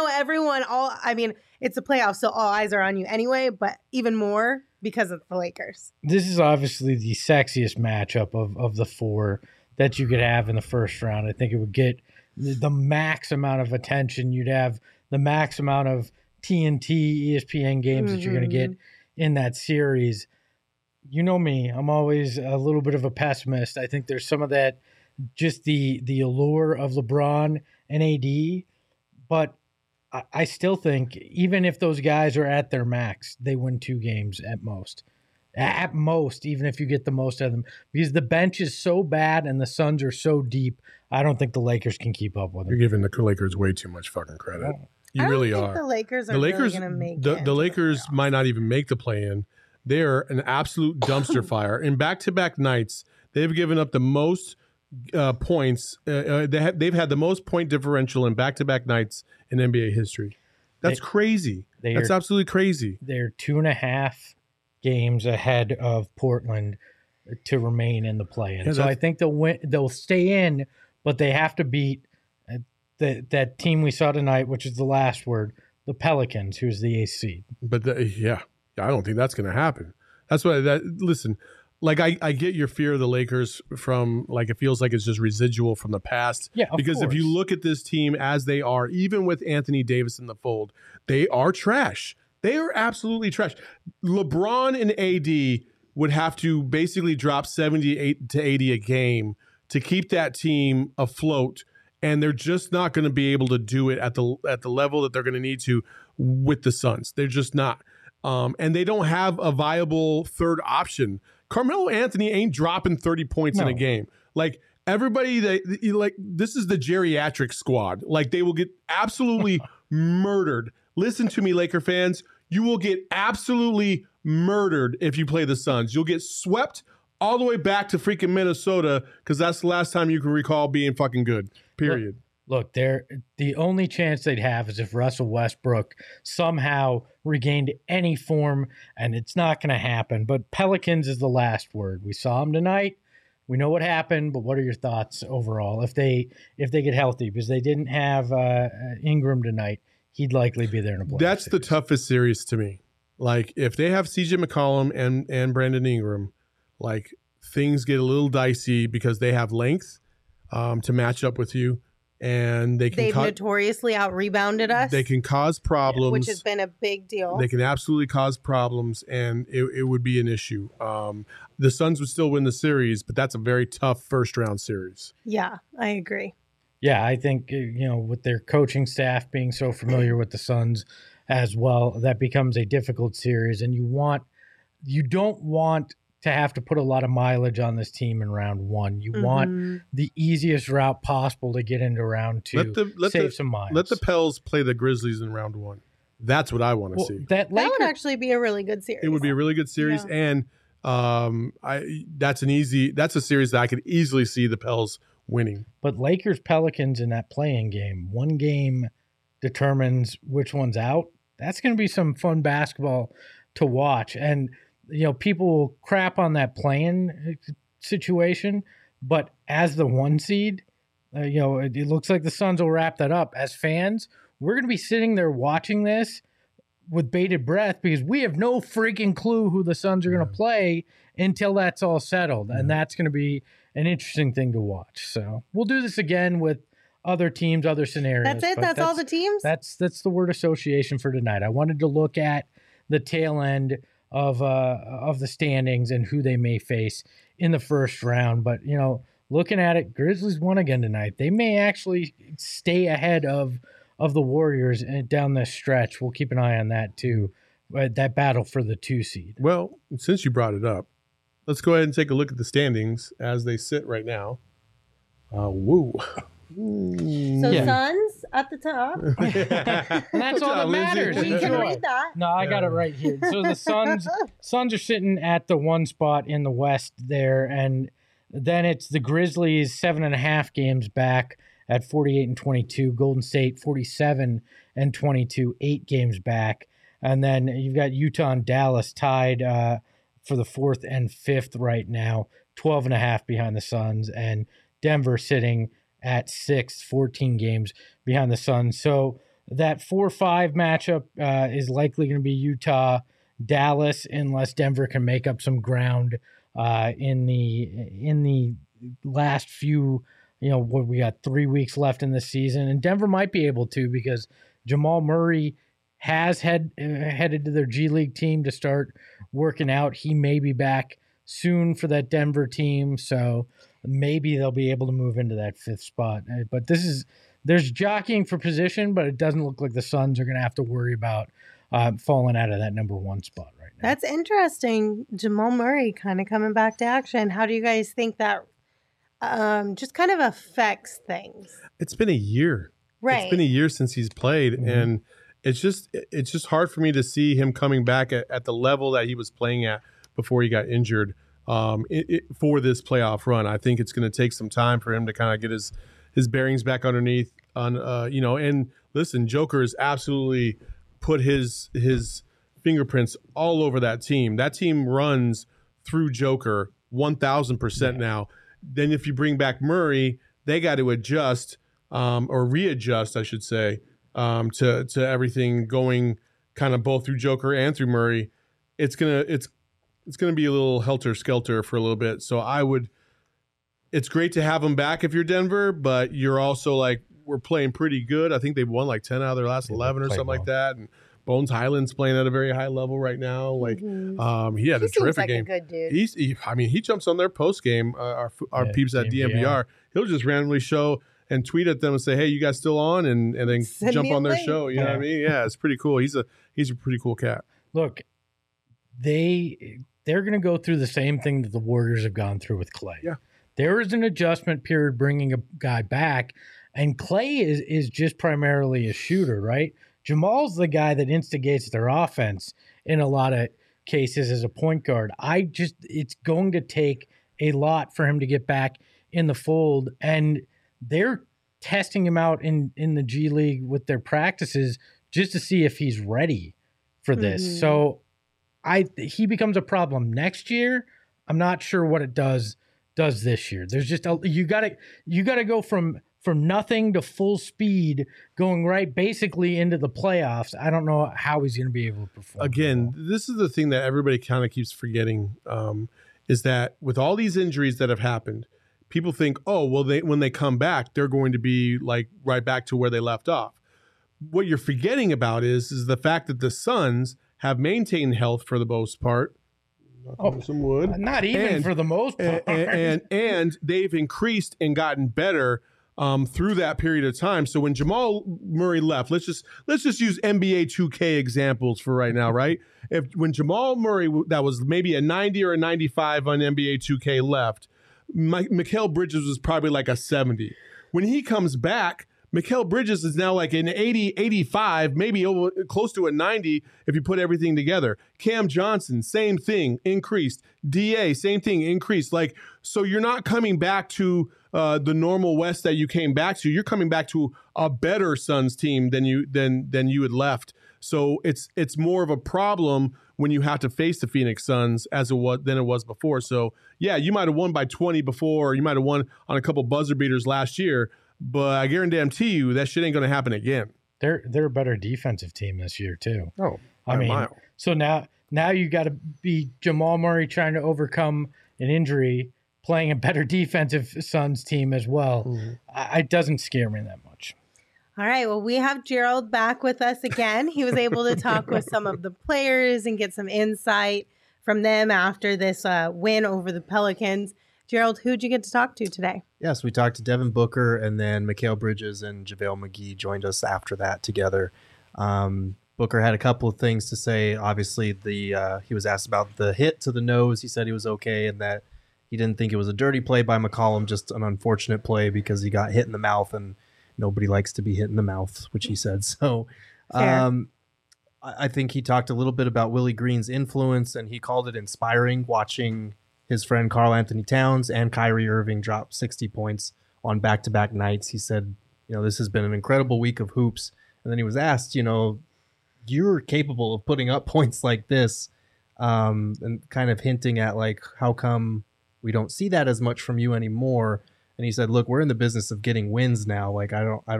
it's a playoff, so all eyes are on you anyway, but even more because of the Lakers. This is obviously the sexiest matchup of the four that you could have in the first round. I think it would get the max amount of attention. You'd have the max amount of TNT, ESPN games that you're going to get in that series. You know me, I'm always a little bit of a pessimist. I think there's some of that, just the allure of LeBron and AD, but I still think even if those guys are at their max, they win 2 games at most. At most, even if you get the most out of them. Because the bench is so bad and the Suns are so deep, I don't think the Lakers can keep up with them. You're giving the Lakers way too much fucking credit. You really are. The Lakers are really going to make it. The Lakers might not even make the play-in. They're an absolute dumpster fire. In back-to-back nights, they've given up the most points. They've had the most point differential in back-to-back nights in NBA history. That's crazy. That's absolutely crazy. They're 2.5 games ahead of Portland to remain in the play-in. Yeah, so I think they'll win. They'll stay in, but they have to beat that team we saw tonight, which is the last word, the Pelicans, who's the 8th seed. But I don't think that's going to happen. That's why listen, like I get your fear of the Lakers from like, it feels like it's just residual from the past. Yeah, because if you look at this team as they are, even with Anthony Davis in the fold, they are trash. They are absolutely trash. LeBron and AD would have to basically drop 78 to 80 a game to keep that team afloat. And they're just not going to be able to do it at the level that they're going to need to with the Suns. They're just not. And they don't have a viable third option. Carmelo Anthony ain't dropping 30 points in a game. Like everybody, this is the geriatric squad. Like they will get absolutely murdered. Listen to me, Laker fans. You will get absolutely murdered if you play the Suns. You'll get swept all the way back to freaking Minnesota because that's the last time you can recall being fucking good. Period. Look, the only chance they'd have is if Russell Westbrook somehow regained any form, and it's not going to happen. But Pelicans is the last word. We saw them tonight. We know what happened, but what are your thoughts overall if they get healthy? Because they didn't have Ingram tonight. He'd likely be there in a playoff That's series. The toughest series to me. Like if they have CJ McCollum and Brandon Ingram, like things get a little dicey because they have length to match up with you, and they've notoriously out-rebounded us. They can cause problems, which has been a big deal. They can absolutely cause problems, and it would be an issue. The Suns would still win the series, but that's a very tough first-round series. Yeah, I agree. Yeah, I think with their coaching staff being so familiar with the Suns as well, that becomes a difficult series, and you don't want to have to put a lot of mileage on this team in round 1. You want the easiest route possible to get into round 2. Save some miles. Let the Pels play the Grizzlies in round 1. That's what I want to see. That would actually be a really good series. It would be a really good series, and that's a series that I could easily see the Pels winning. But Lakers Pelicans in that play-in game, one game determines which one's out. That's going to be some fun basketball to watch. And people will crap on that play-in situation, but as the one seed, it looks like the Suns will wrap that up. As fans, we're going to be sitting there watching this with bated breath because we have no freaking clue who the Suns are going to play until that's all settled. And that's going to be an interesting thing to watch. So we'll do this again with other teams, other scenarios. That's it? That's all the teams? That's the word association for tonight. I wanted to look at the tail end of the standings and who they may face in the first round. But, looking at it, Grizzlies won again tonight. They may actually stay ahead of the Warriors down this stretch. We'll keep an eye on that too, that battle for the 2 seed. Well, since you brought it up, let's go ahead and take a look at the standings as they sit right now. Woo. Suns at the top. And that's all that matters. We can read that. No, I got it right here. So the Suns are sitting at the 1 spot in the West there, and then it's the Grizzlies 7.5 games back at 48-22. Golden State 47-22, 8 games back. And then you've got Utah and Dallas tied for the 4th and 5th right now, 12.5 behind the Suns, and Denver sitting at 6th, 14 games behind the Suns. So that 4-5 matchup is likely going to be Utah-Dallas unless Denver can make up some ground in the last few, we got 3 weeks left in the season. And Denver might be able to because Jamal Murray has headed to their G League team to start working out. He may be back soon for that Denver team, so maybe they'll be able to move into that 5th spot. But there's jockeying for position, but it doesn't look like the Suns are going to have to worry about falling out of that number 1 spot right now. That's interesting. Jamal Murray kind of coming back to action. How do you guys think that just kind of affects things? It's been a year. Right. It's been a year since he's played, and it's just hard for me to see him coming back at the level that he was playing at before he got injured for this playoff run. I think it's going to take some time for him to kind of get his bearings back underneath. And listen, Joker has absolutely put his fingerprints all over that team. That team runs through Joker 1,000% now. Then if you bring back Murray, they got to adjust or readjust, I should say, to everything going kind of both through Joker and through Murray. It's gonna be a little helter-skelter for a little bit. So it's great to have them back if you're Denver, but you're also like, we're playing pretty good. I think they've won like 10 out of their last 11 or something like that. And Bones Highland's playing at a very high level right now. Like, he had a terrific game. A good dude. He jumps on their post game. Our peeps at DMVR. He'll just randomly show and tweet at them and say, "Hey, you guys still on?" and then jump on their show. You know what I mean? Yeah, it's pretty cool. He's a pretty cool cat. Look, they're going to go through the same thing that the Warriors have gone through with Clay. Yeah, there is an adjustment period bringing a guy back, and Clay is just primarily a shooter, right? Jamal's the guy that instigates their offense in a lot of cases as a point guard. It's going to take a lot for him to get back in the fold, and they're testing him out in the G League with their practices just to see if he's ready for this. So he becomes a problem next year. I'm not sure what it does this year. There's just you gotta go from nothing to full speed, going right basically into the playoffs. I don't know how he's going to be able to perform. Again, this is the thing that everybody kind of keeps forgetting, is that with all these injuries that have happened, people think, oh, well, when they come back, they're going to be like right back to where they left off. What you're forgetting about is the fact that the Suns have maintained health for the most part. Some wood. Not even for the most part. And they've increased and gotten better through that period of time. So when Jamal Murray left, let's just use NBA 2K examples for right now, right? When Jamal Murray, that was maybe a 90 or a 95 on NBA 2K left, Mikal Bridges was probably like a 70. When he comes back, Mikal Bridges is now like an 80, 85, maybe close to a 90 if you put everything together. Cam Johnson, same thing, increased. DA, same thing, increased. Like, so you're not coming back to the normal West that you came back to. You're coming back to a better Suns team than you had left. So it's more of a problem when you have to face the Phoenix Suns than it was before. So yeah, you might have won by 20 before, or you might have won on a couple buzzer beaters last year. But I guarantee you that shit ain't going to happen again. They're a better defensive team this year too. Oh, I mean, mile. So now you got to be Jamal Murray trying to overcome an injury, playing a better defensive Suns team as well. Mm-hmm. It doesn't scare me that much. All right. Well, we have Gerald back with us again. He was able to talk with some of the players and get some insight from them after this win over the Pelicans. Gerald, who'd you get to talk to today? Yes, we talked to Devin Booker, and then Mikal Bridges and JaVale McGee joined us after that together. Booker had a couple of things to say. Obviously, he was asked about the hit to the nose. He said he was okay and that he didn't think it was a dirty play by McCollum, just an unfortunate play because he got hit in the mouth, and nobody likes to be hit in the mouth, which he said. So I think he talked a little bit about Willie Green's influence, and he called it inspiring watching his friend Karl Anthony Towns and Kyrie Irving dropped 60 points on back-to-back nights. He said, this has been an incredible week of hoops. And then he was asked, you're capable of putting up points like this, and kind of hinting at like, how come we don't see that as much from you anymore? And he said, look, we're in the business of getting wins now. Like,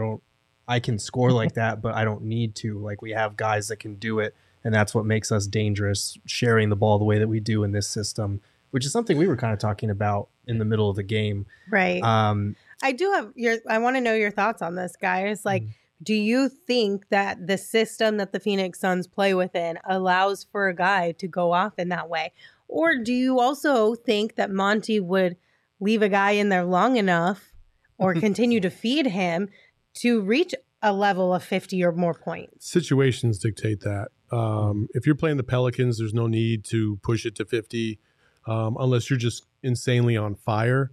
I can score like that, but I don't need to. Like, we have guys that can do it. And that's what makes us dangerous, sharing the ball the way that we do in this system, which is something we were kind of talking about in the middle of the game. Right. I want to know your thoughts on this, guys. Like, do you think that the system that the Phoenix Suns play within allows for a guy to go off in that way? Or do you also think that Monty would leave a guy in there long enough or continue to feed him to reach a level of 50 or more points? Situations dictate that. If you're playing the Pelicans, there's no need to push it to 50. Unless you're just insanely on fire.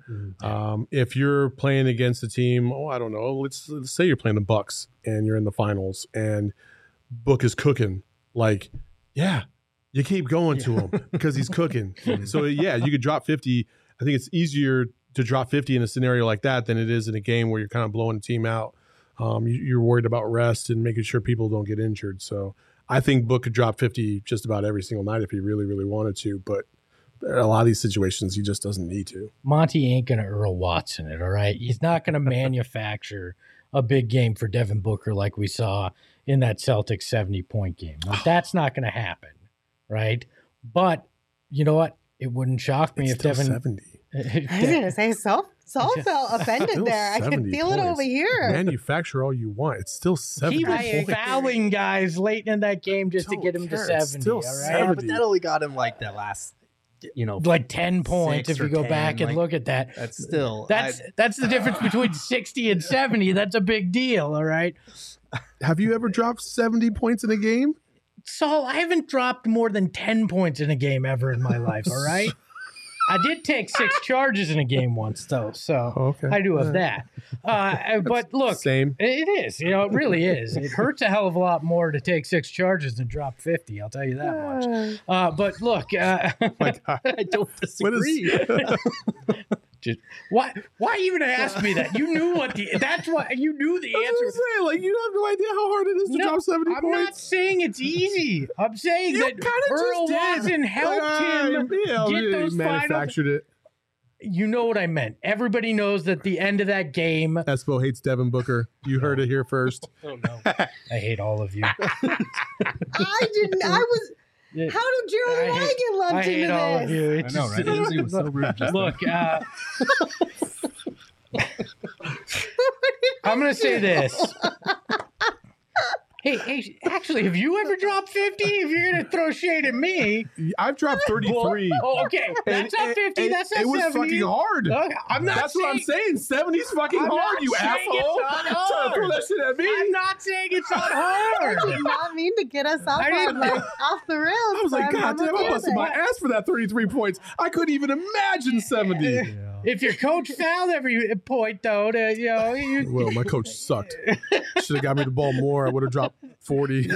If you're playing against a team, I don't know, let's say you're playing the Bucks and you're in the finals and Book is cooking. Like, yeah, you keep going to him because he's cooking. So, yeah, you could drop 50. I think it's easier to drop 50 in a scenario like that than it is in a game where you're kind of blowing a team out. You're worried about rest and making sure people don't get injured. So I think Book could drop 50 just about every single night if he really, really wanted to. But a lot of these situations, he just doesn't need to. Monty ain't going to Earl Watson it, all right? He's not going to manufacture a big game for Devin Booker like we saw in that Celtics 70-point game. Like, that's not going to happen, right? But you know what? It wouldn't shock me if Devin... 70. I was going to say, Saul felt offended there. I can feel it over here. Manufacture all you want. It's still 70 He was fouling guys late in that game just to get him to 70, all right? 70. Yeah, but that only got him like that last... like 10 points if you go 10, back and look at that. That's still... That's the difference between 60 and 70. That's a big deal, all right? Have you ever dropped 70 points in a game? Saul, I haven't dropped more than 10 points in a game ever in my life, all right? I did take 6 charges in a game once, though, so I do have that. But look, same. It is. It really is. It hurts a hell of a lot more to take 6 charges than drop 50. I'll tell you that much. But look, I don't disagree. Why even ask me that? You knew that's what you knew the answer. Saying, like, you have no idea how hard it is to drop 70 points. I'm not saying it's easy. I'm saying that Earl Watson helped him get those manufactured finals. It. You know what I meant. Everybody knows that the end of that game. Espo hates Devin Booker. You heard it here first. Oh no, I hate all of you. I didn't. I was. How did Gerald and I get lumped into this? I hate all of you. I know, right? Lindsay was so rude. Look, I'm going to say this. Hey, actually, have you ever dropped 50? If you're going to throw shade at me. I've dropped 33. Okay. That's not 50. That's not 70. It was fucking hard. That's what I'm saying. 70's fucking hard, you asshole. Trying to throw that shit at me. I'm not saying it's not hard. I did not mean to get us off the rails. I was like, God damn, I busted my ass for that 33 points. I couldn't even imagine 70. if your coach fouled every point, though, Well, my coach sucked. Should have got me the ball more. I would have dropped 40.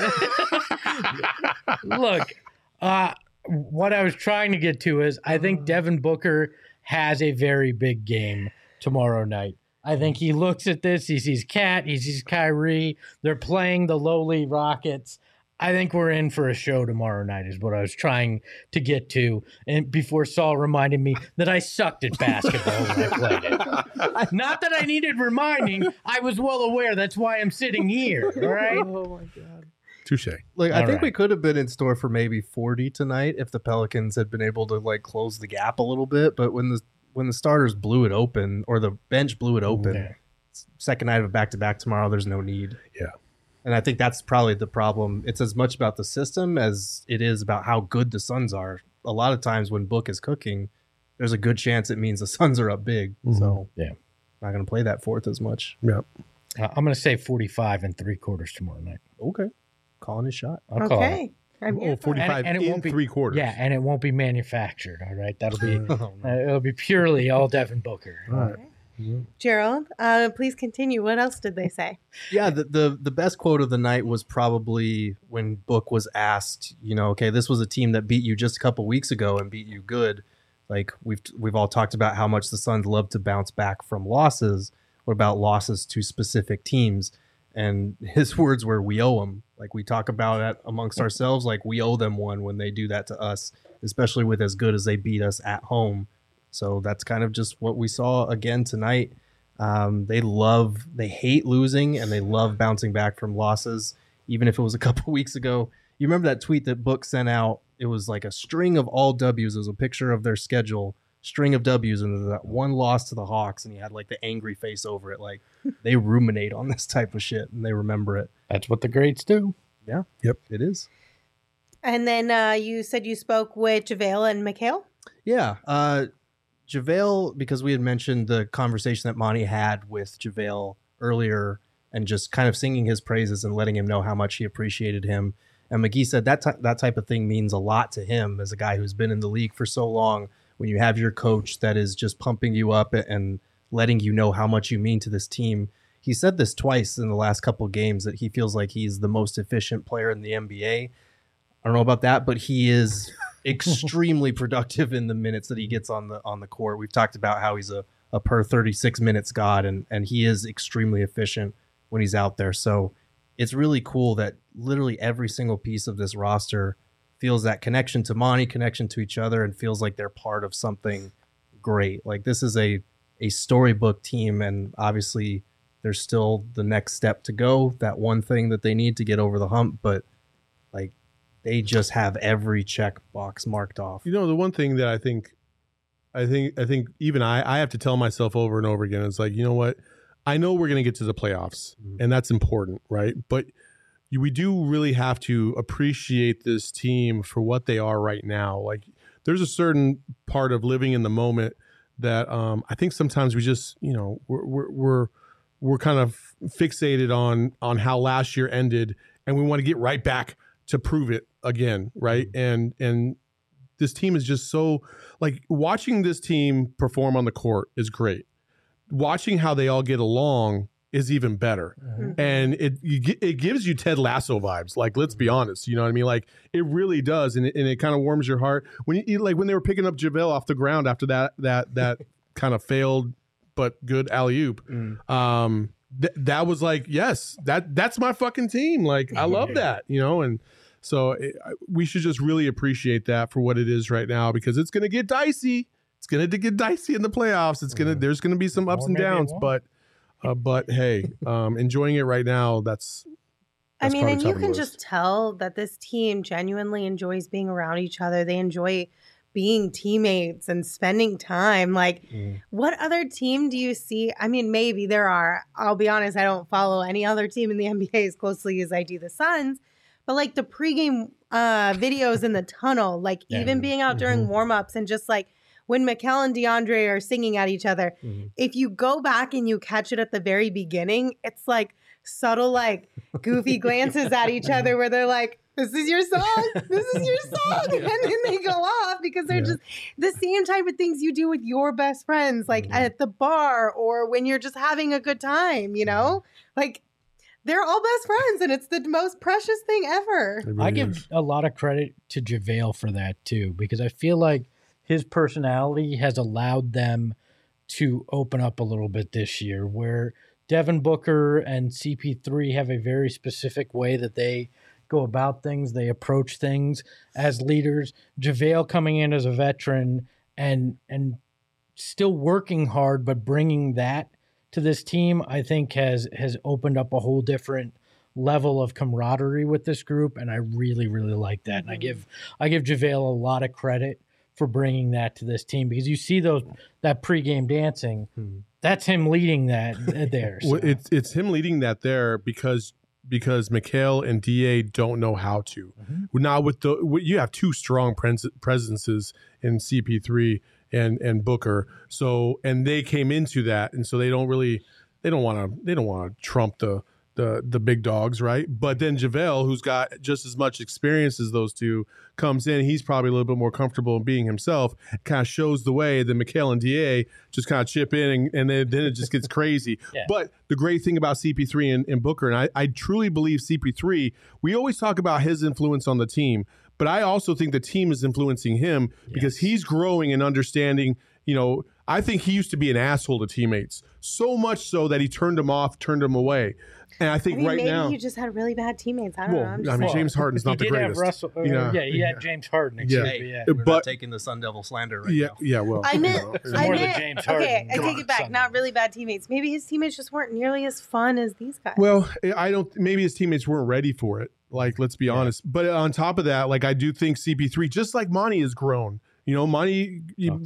Look, what I was trying to get to is I think Devin Booker has a very big game tomorrow night. I think he looks at this, he sees Cat, he sees Kyrie. They're playing the lowly Rockets. I think we're in for a show tomorrow night is what I was trying to get to. And before Saul reminded me that I sucked at basketball when I played it. Not that I needed reminding. I was well aware. That's why I'm sitting here. All right. Oh, my God. Touche. Like, I think we could have been in store for maybe 40 tonight if the Pelicans had been able to like close the gap a little bit. But when the starters blew it open, or the bench blew it open, second night of a back-to-back tomorrow, there's no need. Yeah. And I think that's probably the problem. It's as much about the system as it is about how good the Suns are. A lot of times when Book is cooking, there's a good chance it means the Suns are up big. So yeah, not going to play that fourth as much. Yeah. I'm going to say 45 3/4 tomorrow night. Okay. Calling his shot. I'll call it. Oh, 45 and it in won't be 3/4. Yeah, and it won't be manufactured. All right, that'll be it'll be purely all Devin Booker. All right. Gerald, please continue. What else did they say? Yeah, the best quote of the night was probably when Book was asked, okay, this was a team that beat you just a couple weeks ago and beat you good. Like we've all talked about how much the Suns love to bounce back from losses. What about losses to specific teams? And his words were, we owe them. Like we talk about it amongst ourselves, like we owe them one when they do that to us, especially with as good as they beat us at home. So that's kind of just what we saw again tonight. They hate losing and they love bouncing back from losses, even if it was a couple weeks ago. You remember that tweet that Book sent out? It was like a string of all W's. It was a picture of their schedule, string of W's, and that one loss to the Hawks, and he had like the angry face over it. Like they ruminate on this type of shit and they remember it. That's what the greats do. Yeah. Yep. It is. And then you said you spoke with JaVale and Mikal? Yeah. JaVale, because we had mentioned the conversation that Monty had with JaVale earlier and just kind of singing his praises and letting him know how much he appreciated him. And McGee said that type of thing means a lot to him as a guy who's been in the league for so long. When you have your coach that is just pumping you up and letting you know how much you mean to this team. He said this twice in the last couple of games that he feels like he's the most efficient player in the NBA. I don't know about that, but he is extremely productive in the minutes that he gets on the court. We've talked about how he's a per 36 minutes god, and he is extremely efficient when he's out there. So it's really cool that literally every single piece of this roster feels that connection to Monty, connection to each other, and feels like they're part of something great. Like this is a storybook team, and obviously there's still the next step to go, that one thing that they need to get over the hump, but like they just have every check box marked off. The one thing that I think even I have to tell myself over and over again, it's like, you know what? I know we're going to get to the playoffs, and that's important, right? But we do really have to appreciate this team for what they are right now. Like there's a certain part of living in the moment that I think sometimes we just, we're kind of fixated on how last year ended, and we want to get right back to prove it again, right? And this team is just so, like, watching this team perform on the court is great. Watching how they all get along is even better. And it gives you Ted Lasso vibes. Like, let's be honest, you know what I mean? Like, it really does, and it kind of warms your heart when you like when they were picking up JaVale off the ground after that kind of failed but good alley-oop. That was like, yes, that's my fucking team. Like, I love that, and so we should just really appreciate that for what it is right now, because it's going to get dicey. It's going to get dicey in the playoffs. There's going to be some ups and downs, but hey, enjoying it right now. That's I mean, and you can just tell that this team genuinely enjoys being around each other. They enjoy being teammates and spending time. Like, what other team do you see? I mean, maybe there are. I'll be honest, I don't follow any other team in the NBA as closely as I do the Suns. But like the pregame videos in the tunnel, like even being out during warmups and just like when Mikal and DeAndre are singing at each other, if you go back and you catch it at the very beginning, it's like subtle, like goofy glances at each other where they're like, this is your song. This is your song. And then they go off because they're just the same type of things you do with your best friends, like at the bar or when you're just having a good time, you know? Like, they're all best friends, and it's the most precious thing ever. Really I give a lot of credit to JaVale for that, too, because I feel like his personality has allowed them to open up a little bit this year, where Devin Booker and CP3 have a very specific way that they go about things. They approach things as leaders. JaVale coming in as a veteran and still working hard, but bringing that to this team, I think has opened up a whole different level of camaraderie with this group, and I really, really like that. And I give JaVale a lot of credit for bringing that to this team, because you see that pregame dancing, that's him leading that there. So. Well, it's him leading that there because Mikal and DA don't know how to. Now you have two strong presences in CP3 and Booker, so and they came into that, and so they don't want to trump the big dogs, right? But then JaVale, who's got just as much experience as those two, comes in. He's probably a little bit more comfortable in being himself, kind of shows the way. Then Mikal and DA just kind of chip in, and then it just gets crazy. Yeah. But the great thing about CP3 and Booker, and I truly believe CP3, we always talk about his influence on the team, but I also think the team is influencing him because he's growing and understanding, I think he used to be an asshole to teammates, so much so that he turned them off, turned them away. And I think maybe now you just had really bad teammates. I don't know. James Harden's not the greatest. He had James Harden. We're not taking the Sun Devil slander right now. Yeah, well, I meant James Harden. Okay, I take it back. Not really bad teammates. Maybe his teammates just weren't nearly as fun as these guys. Well, maybe his teammates weren't ready for it. Like, let's be honest. But on top of that, like, I do think CP3, just like Monty, has grown. Monty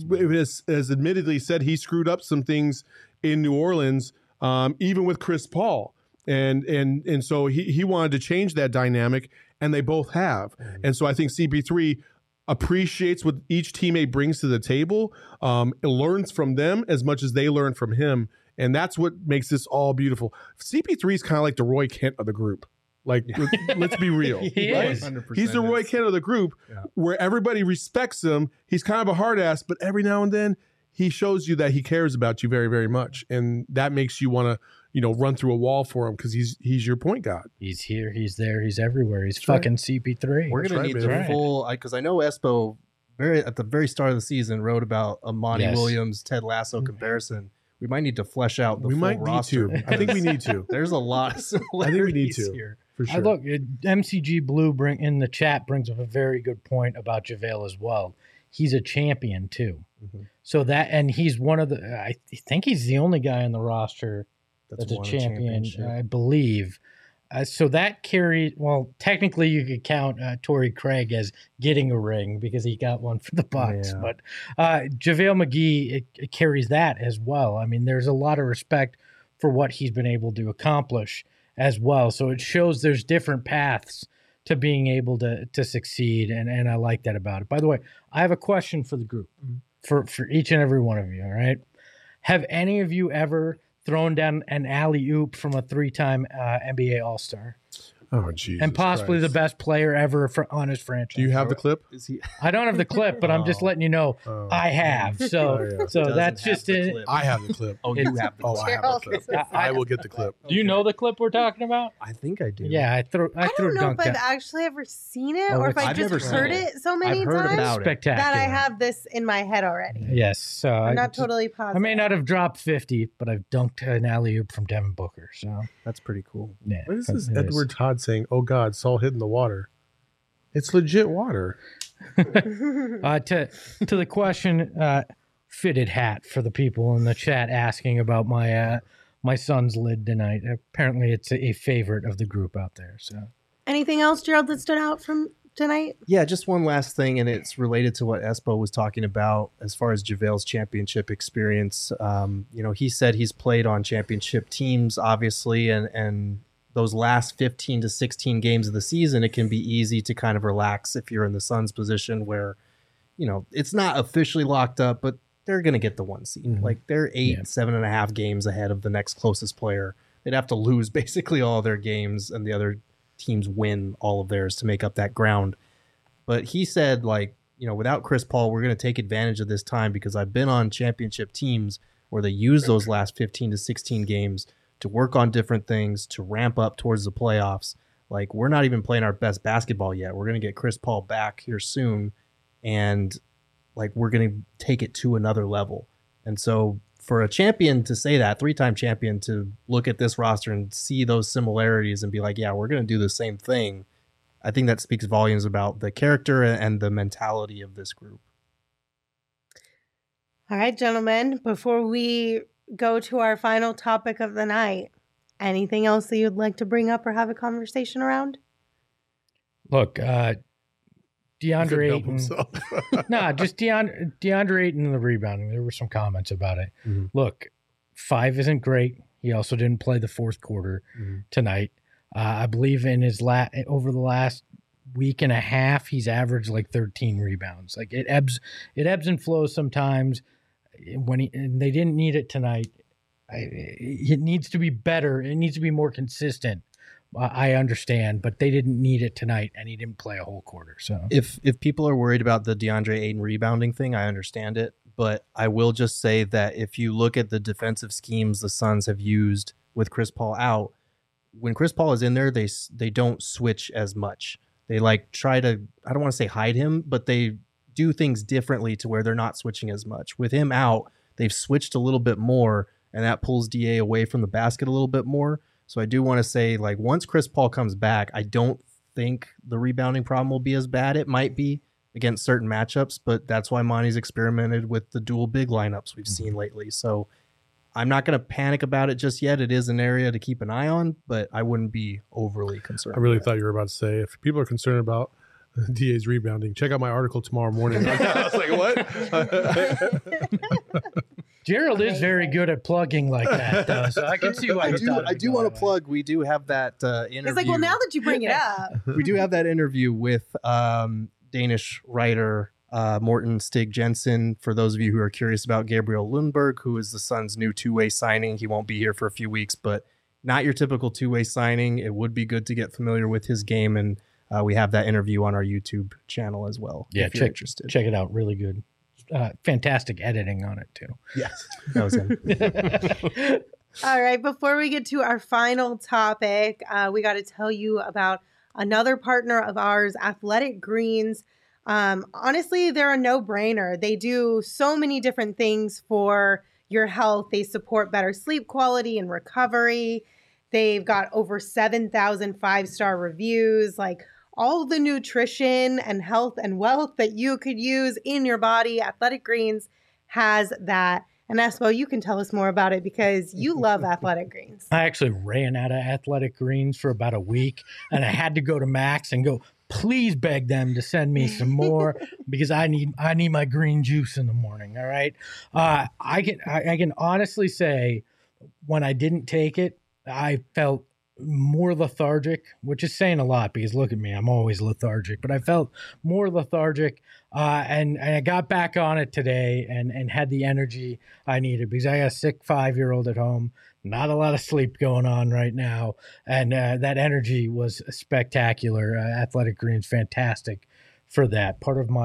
has admittedly said he screwed up some things in New Orleans, even with Chris Paul. And so he wanted to change that dynamic, and they both have. And so I think CP3 appreciates what each teammate brings to the table, learns from them as much as they learn from him. And that's what makes this all beautiful. CP3 is kind of like the Roy Kent of the group. Like, let's be real. He is. He's the Roy Kent of the group, where everybody respects him. He's kind of a hard ass, but every now and then he shows you that he cares about you very, very much. And that makes you want to, run through a wall for him because he's your point guard. He's here, he's there, he's everywhere. He's fucking CP3. We're going to need the full, because I know Espo at the very start of the season wrote about a Monty Williams, Ted Lasso comparison. We might need to flesh out the full roster. I think we need to. There's a lot of similarities I think we need to. Here. For sure. Look, MCG Blue in the chat brings up a very good point about JaVale as well. He's a champion too. So and he's one of I think he's the only guy on the roster that's a champion, I believe. So that carries, technically you could count Torrey Craig as getting a ring because he got one for the Bucks. Yeah. But JaVale McGee, it carries that as well. I mean, there's a lot of respect for what he's been able to accomplish as well. So it shows there's different paths to being able to succeed, and I like that about it. By the way, I have a question for the group, for each and every one of you, all right? Have any of you ever thrown down an alley-oop from a 3-time NBA All-Star? Oh, Jesus and possibly Christ. the best player ever on his franchise. Do you have the clip? I don't have the clip, but I'm just letting you know I have. So that's just it. I have the clip. Oh, you have the clip. I have the clip. I will get the clip. Do you know the clip we're talking about? I think I do. Yeah, I don't know if I've actually ever seen it or if I've just heard it so many times Spectacular. that I have this in my head already. Yes. So I'm not totally positive. I may not have dropped 50, but I've dunked an alley-oop from Devin Booker. So that's pretty cool. Yeah. What is this Edward Todd saying? Oh, God, Saul hid in the water. It's legit water. To the question, fitted hat for the people in the chat asking about my son's lid tonight. Apparently, it's a favorite of the group out there. So, anything else, Gerald, that stood out from tonight? Yeah, just one last thing, and it's related to what Espo was talking about as far as JaVale's championship experience. He said he's played on championship teams, obviously, and those last 15 to 16 games of the season, it can be easy to kind of relax if you're in the Suns position where, it's not officially locked up, but they're going to get the 1 seed. Like they're 7.5 games ahead of the next closest player. They'd have to lose basically all their games and the other teams win all of theirs to make up that ground. But he said, like, without Chris Paul, we're going to take advantage of this time because I've been on championship teams where they use those last 15 to 16 games to work on different things, to ramp up towards the playoffs. Like, we're not even playing our best basketball yet. We're going to get Chris Paul back here soon, and like, we're going to take it to another level. And so for a champion to say that, 3-time champion, to look at this roster and see those similarities and be like, yeah, we're going to do the same thing, I think that speaks volumes about the character and the mentality of this group. All right, gentlemen, before we go to our final topic of the night, anything else that you'd like to bring up or have a conversation around? Look, DeAndre Ayton. Just DeAndre Ayton and the rebounding. There were some comments about it. Mm-hmm. Look, 5 isn't great. He also didn't play the fourth quarter tonight. I believe in his over the last week and a half, he's averaged like 13 rebounds. Like, it ebbs and flows sometimes. And they didn't need it tonight. It needs to be better. It needs to be more consistent. I understand, but they didn't need it tonight, and he didn't play a whole quarter. So if people are worried about the DeAndre Ayton rebounding thing, I understand it. But I will just say that if you look at the defensive schemes the Suns have used with Chris Paul out, when Chris Paul is in there, they don't switch as much. They like try to, I don't want to say hide him, but they do things differently to where they're not switching as much. With him out, they've switched a little bit more, and that pulls DA away from the basket a little bit more. So I do want to say, like, once Chris Paul comes back, I don't think the rebounding problem will be as bad. It might be against certain matchups, but that's why Monty's experimented with the dual big lineups we've seen lately. So I'm not going to panic about it just yet. It is an area to keep an eye on, but I wouldn't be overly concerned. I really thought you were about to say, if people are concerned about DA's rebounding, check out my article tomorrow morning. I was like, what? Gerald is very good at plugging like that, though, so I can see why I do want to plug. We do have that interview. It's like, well, now that you bring it up. We do have that interview with Danish writer Morten Stig Jensen. For those of you who are curious about Gabriel Lundberg, who is the Suns' new two-way signing. He won't be here for a few weeks, but not your typical two-way signing. It would be good to get familiar with his game, and we have that interview on our YouTube channel as well. Yeah, if you're interested. Check it out. Really good. Fantastic editing on it, too. Yes, that was him. All right, before we get to our final topic, we got to tell you about another partner of ours, Athletic Greens. Honestly, they're a no-brainer. They do so many different things for your health. They support better sleep quality and recovery. They've got over 7,000 5-star reviews. Like, all the nutrition and health and wealth that you could use in your body, Athletic Greens has that. And Espo, you can tell us more about it because you love Athletic Greens. I actually ran out of Athletic Greens for about a week, and I had to go to Max and go, please beg them to send me some more because I need my green juice in the morning. All right. I can honestly say when I didn't take it, I felt more lethargic, which is saying a lot because look at me, I'm always lethargic, but I felt more lethargic and I got back on it today and had the energy I needed because I got a sick 5-year-old at home, not a lot of sleep going on right now, and that energy was spectacular. Athletic Greens, fantastic for that. Part of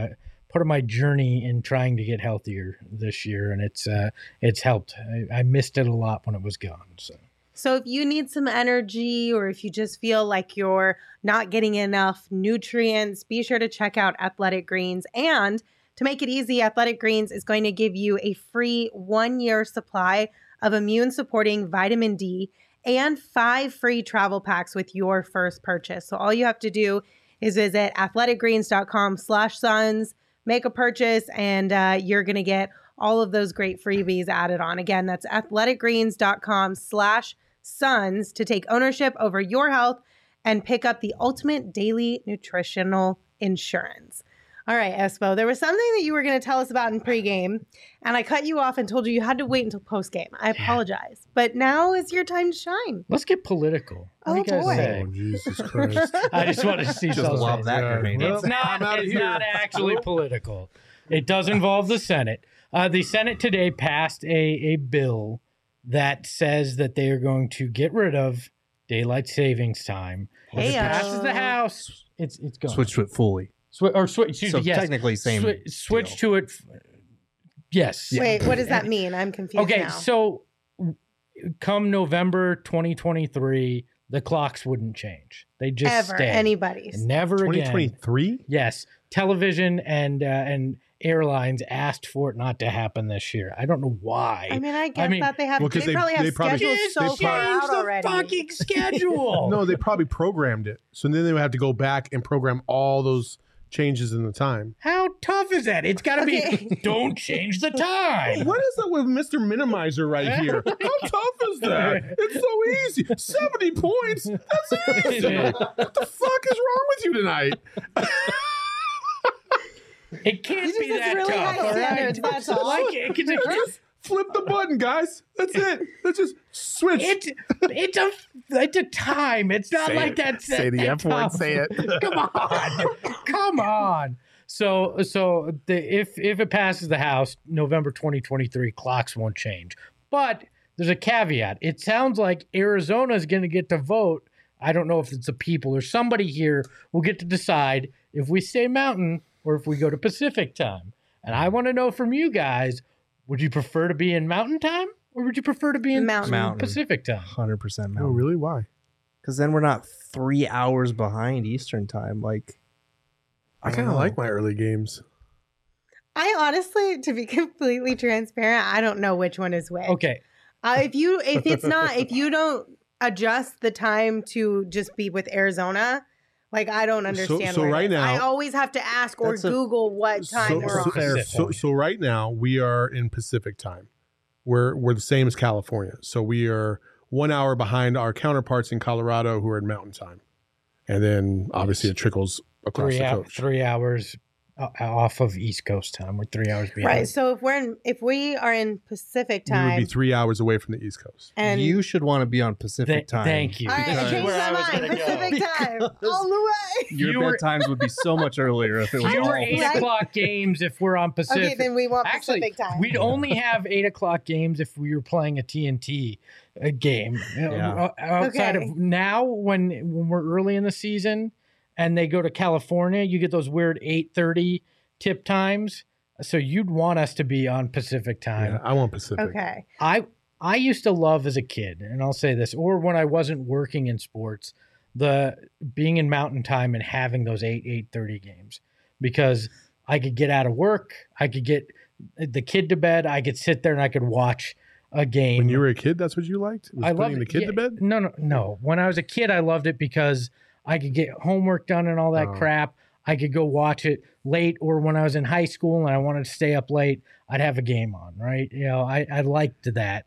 my journey in trying to get healthier this year, and it's helped. I missed it a lot when it was gone. So if you need some energy or if you just feel like you're not getting enough nutrients, be sure to check out Athletic Greens. And to make it easy, Athletic Greens is going to give you a free 1-year supply of immune-supporting vitamin D and 5 free travel packs with your first purchase. So all you have to do is visit athleticgreens.com/suns, make a purchase, and you're going to get all of those great freebies added on. Again, that's athleticgreens.com/suns to take ownership over your health and pick up the ultimate daily nutritional insurance. All right, Espo, there was something that you were going to tell us about in pregame, and I cut you off and told you had to wait until postgame. I apologize, but now is your time to shine. Let's get political. What do you guys say? Oh, Jesus Christ. I just want to see just love that grenade. It's not actually political. It does involve the Senate. The Senate today passed a bill that says that they are going to get rid of daylight savings time. If it passes the House, it's going. Switch to it fully. Excuse me, yes. Technically same. Switch to it. Yes. Wait, what does that mean? I'm confused Okay, now. so come November 2023, the clocks wouldn't change. They just stay. Anybody's. Never again. 2023? Yes. Television and airlines asked for it not to happen this year. I don't know why. I mean, I guess that they have. They probably have schedules so far out already. Fucking schedule. No, they probably programmed it. So then they would have to go back and program all those changes in the time. How tough is that? It's got to be, don't change the time. What is that with Mr. Minimizer right here? How tough is that? It's so easy. 70 points? That's easy. What the fuck is wrong with you tonight? It can't be that really tough. High standards, that's all. Just flip the button, guys. That's it. Let's just switch. It's a time. It's not like that. Say the F word. Say it. Come on. So if it passes the House, November 2023, clocks won't change. But there's a caveat. It sounds like Arizona is going to get to vote. I don't know if it's the people or somebody here will get to decide if we stay Mountain or if we go to Pacific time. And I want to know from you guys, would you prefer to be in Mountain time or would you prefer to be in Pacific time? 100% Mountain. Oh, really? Why? Because then we're not 3 hours behind Eastern time. Like, I kind of like my early games. I honestly, to be completely transparent, I don't know which one is which. Okay. If you don't adjust the time to just be with Arizona, like I don't understand. So right now, I always have to ask or Google what time we're on. So right now we are in Pacific time. We're the same as California. So we are 1 hour behind our counterparts in Colorado who are in Mountain time, and then obviously it trickles across the coast. 3 hours off of East Coast time. We're 3 hours behind. Right. So if we are in Pacific time, we would be 3 hours away from the East Coast. And you should want to be on Pacific time. Thank you. All right, I changed my mind. Pacific time, all the way. Your bedtimes would be so much earlier if it was Fewer 8 o'clock games if we're on Pacific. Okay, then we want Pacific time. We'd only have 8 o'clock games if we were playing a TNT game. Outside of now, when we're early in the season and they go to California, you get those weird 8:30 tip times. So you'd want us to be on Pacific time. Yeah, I want Pacific. Okay. I used to love as a kid, and I'll say this, or when I wasn't working in sports, the being in Mountain time and having those 8:30 games, because I could get out of work, I could get the kid to bed, I could sit there and I could watch a game. When you were a kid, that's what you liked? Was putting the kid to bed? No. When I was a kid, I loved it because I could get homework done and all that crap. I could go watch it late, or when I was in high school and I wanted to stay up late, I'd have a game on, right? I liked that.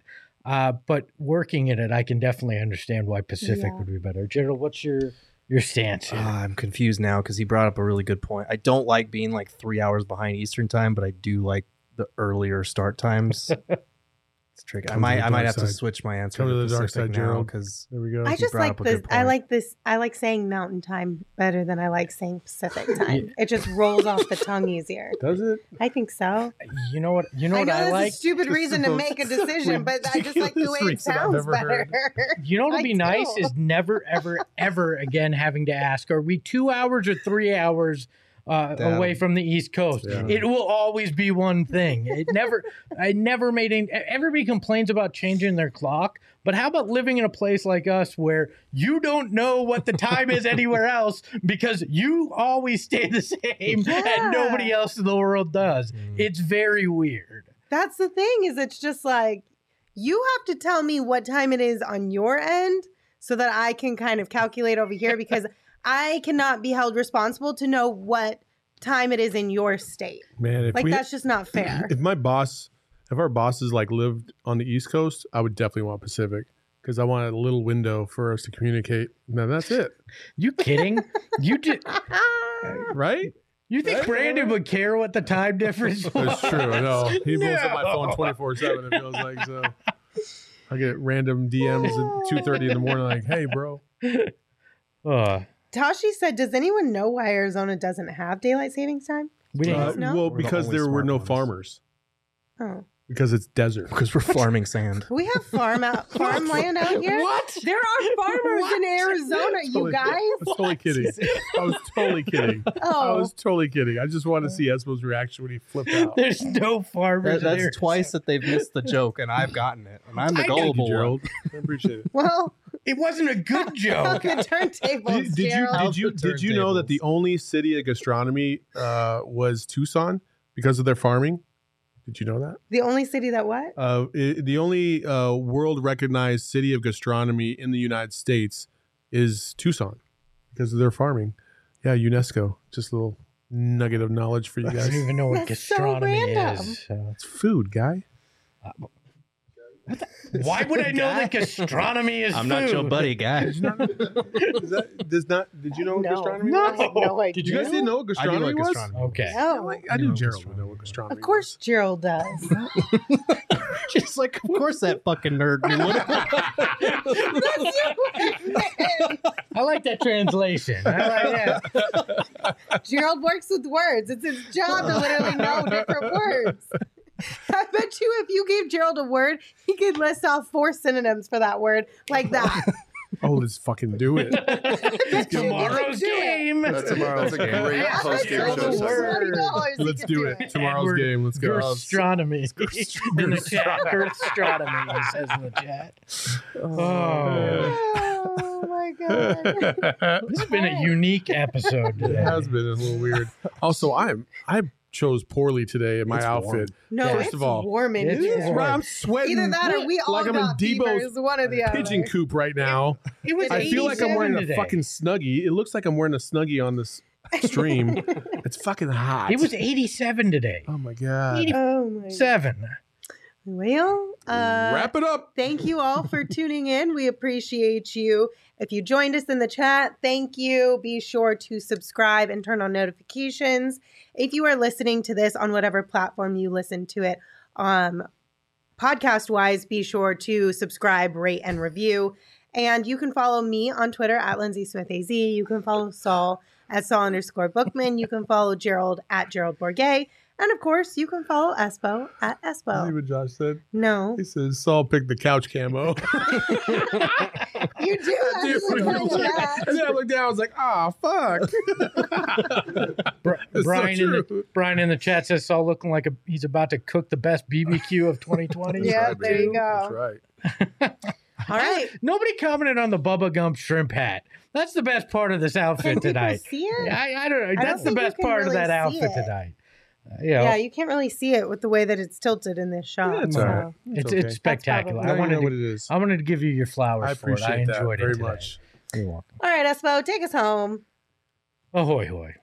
But working in it, I can definitely understand why Pacific would be better. Gerald, what's your stance here? I'm confused now because he brought up a really good point. I don't like being like 3 hours behind Eastern time, but I do like the earlier start times. It's tricky. I might have to switch my answer. Come to the dark side, Gerald. Because there we go. I just like this. I like saying Mountain time better than I like saying Pacific time. It just rolls off the tongue easier. Does it? I think so. You know what I like? That's a stupid reason to make a decision, but I just like the way it sounds better. You know what'd be nice is never, ever, ever again having to ask, are we 2 hours or 3 hours away from the East Coast? Yeah. It will always be one thing. I never made any. Everybody complains about changing their clock, but how about living in a place like us where you don't know what the time is anywhere else because you always stay the same and nobody else in the world does? It's very weird. That's the thing, is it's just like, you have to tell me what time it is on your end so that I can kind of calculate over here, because I cannot be held responsible to know what time it is in your state. Man, that's just not fair. If our bosses like lived on the East Coast, I would definitely want Pacific, because I want a little window for us to communicate. Now that's it. You kidding? You just right? You think Brandon would care what the time difference was? That's true. No, he blows up my phone 24/7. It feels like so. I get random DMs at 2:30 in the morning, like, "Hey, bro." Tashi said, "Does anyone know why Arizona doesn't have daylight savings time?" We didn't know. Well, because there were no farmers. Oh. Because it's desert. Because we're farming sand. We have farmland out here. What? There are farmers in Arizona, you guys. I was totally kidding. I was totally kidding. I was totally kidding. I just wanted to see Espo's reaction when he flipped out. There's no farmers That's there. twice that they've missed the joke, and I've gotten it. And I'm the I know, gullible one. Gerald. I appreciate it. Well, It wasn't a good joke. the turntables, Gerald. Did you know that the only city of gastronomy was Tucson because of their farming? Did you know that? The only city that what? The only world recognized city of gastronomy in the United States is Tucson because of their farming. Yeah, UNESCO. Just a little nugget of knowledge for you I guys. don't even know what That's so gastronomy random. is. So. It's food, guy. Why would I know that gastronomy is I'm food? not your buddy, guy. Did you know what No. gastronomy No. was? I had no idea. Did You guys didn't know what I do gastronomy like was? gastronomy. Okay. No. I knew Gerald would know what gastronomy was. Of course, Gerald does. She's like, of course that fucking nerd knew what I like that translation. I like that. Gerald works with words. It's his job to literally know different words. I bet you if you gave Gerald a word, he could list off 4 synonyms for that word like that. Oh, let's fucking do it. Tomorrow's game. That's a great post game show segment. Let's do it. Tomorrow's game. Let's go. Gastronomy. In the chat. Gastronomy, he says in the chat. Oh. Oh my god. This has been a unique episode It today. has been a little weird. Also, I chose poorly today in my outfit. No, Yeah. it's First of all, warm in it's here. warm. I'm sweating. Either that or we all like I'm in got fevers, Debo's one or the other. pigeon coop right now. It was I feel like I'm 87 wearing today. a fucking Snuggie. It looks like I'm wearing a Snuggie on this stream. It's fucking hot. It was 87 today. Oh my god. Oh my god. 87. Well, Wrap it up. thank you all for tuning in. We appreciate you. If you joined us in the chat, thank you. Be sure to subscribe and turn on notifications. If you are listening to this on whatever platform you listen to it, podcast-wise, be sure to subscribe, rate, and review. And you can follow me on Twitter at Lindsay Smith AZ. You can follow Saul at Saul_Bookman. You can follow Gerald at Gerald Bourget. And of course, you can follow Espo at See Espo. what Josh said? No. He says Saul picked the couch camo. You do actually follow that. And then I looked down, I was like, fuck. It's so Brian in the chat says Saul looking like he's about to cook the best BBQ of 2020. Yeah, Right, there you baby. go. That's right. All right. Nobody commented on the Bubba Gump shrimp hat. That's the best part of this outfit Can people tonight. see it? I don't know. don't That's the think you best can part of really that see outfit it. tonight. Yeah, you can't really see it with the way that it's tilted in this shot. Yeah, it's so. all right. It's okay. spectacular. That's Now you know what it is. I wanted to give you your flowers I for it. I appreciate that enjoyed it very today. much. You're welcome. All right, Espo, take us home. Ahoy, hoy.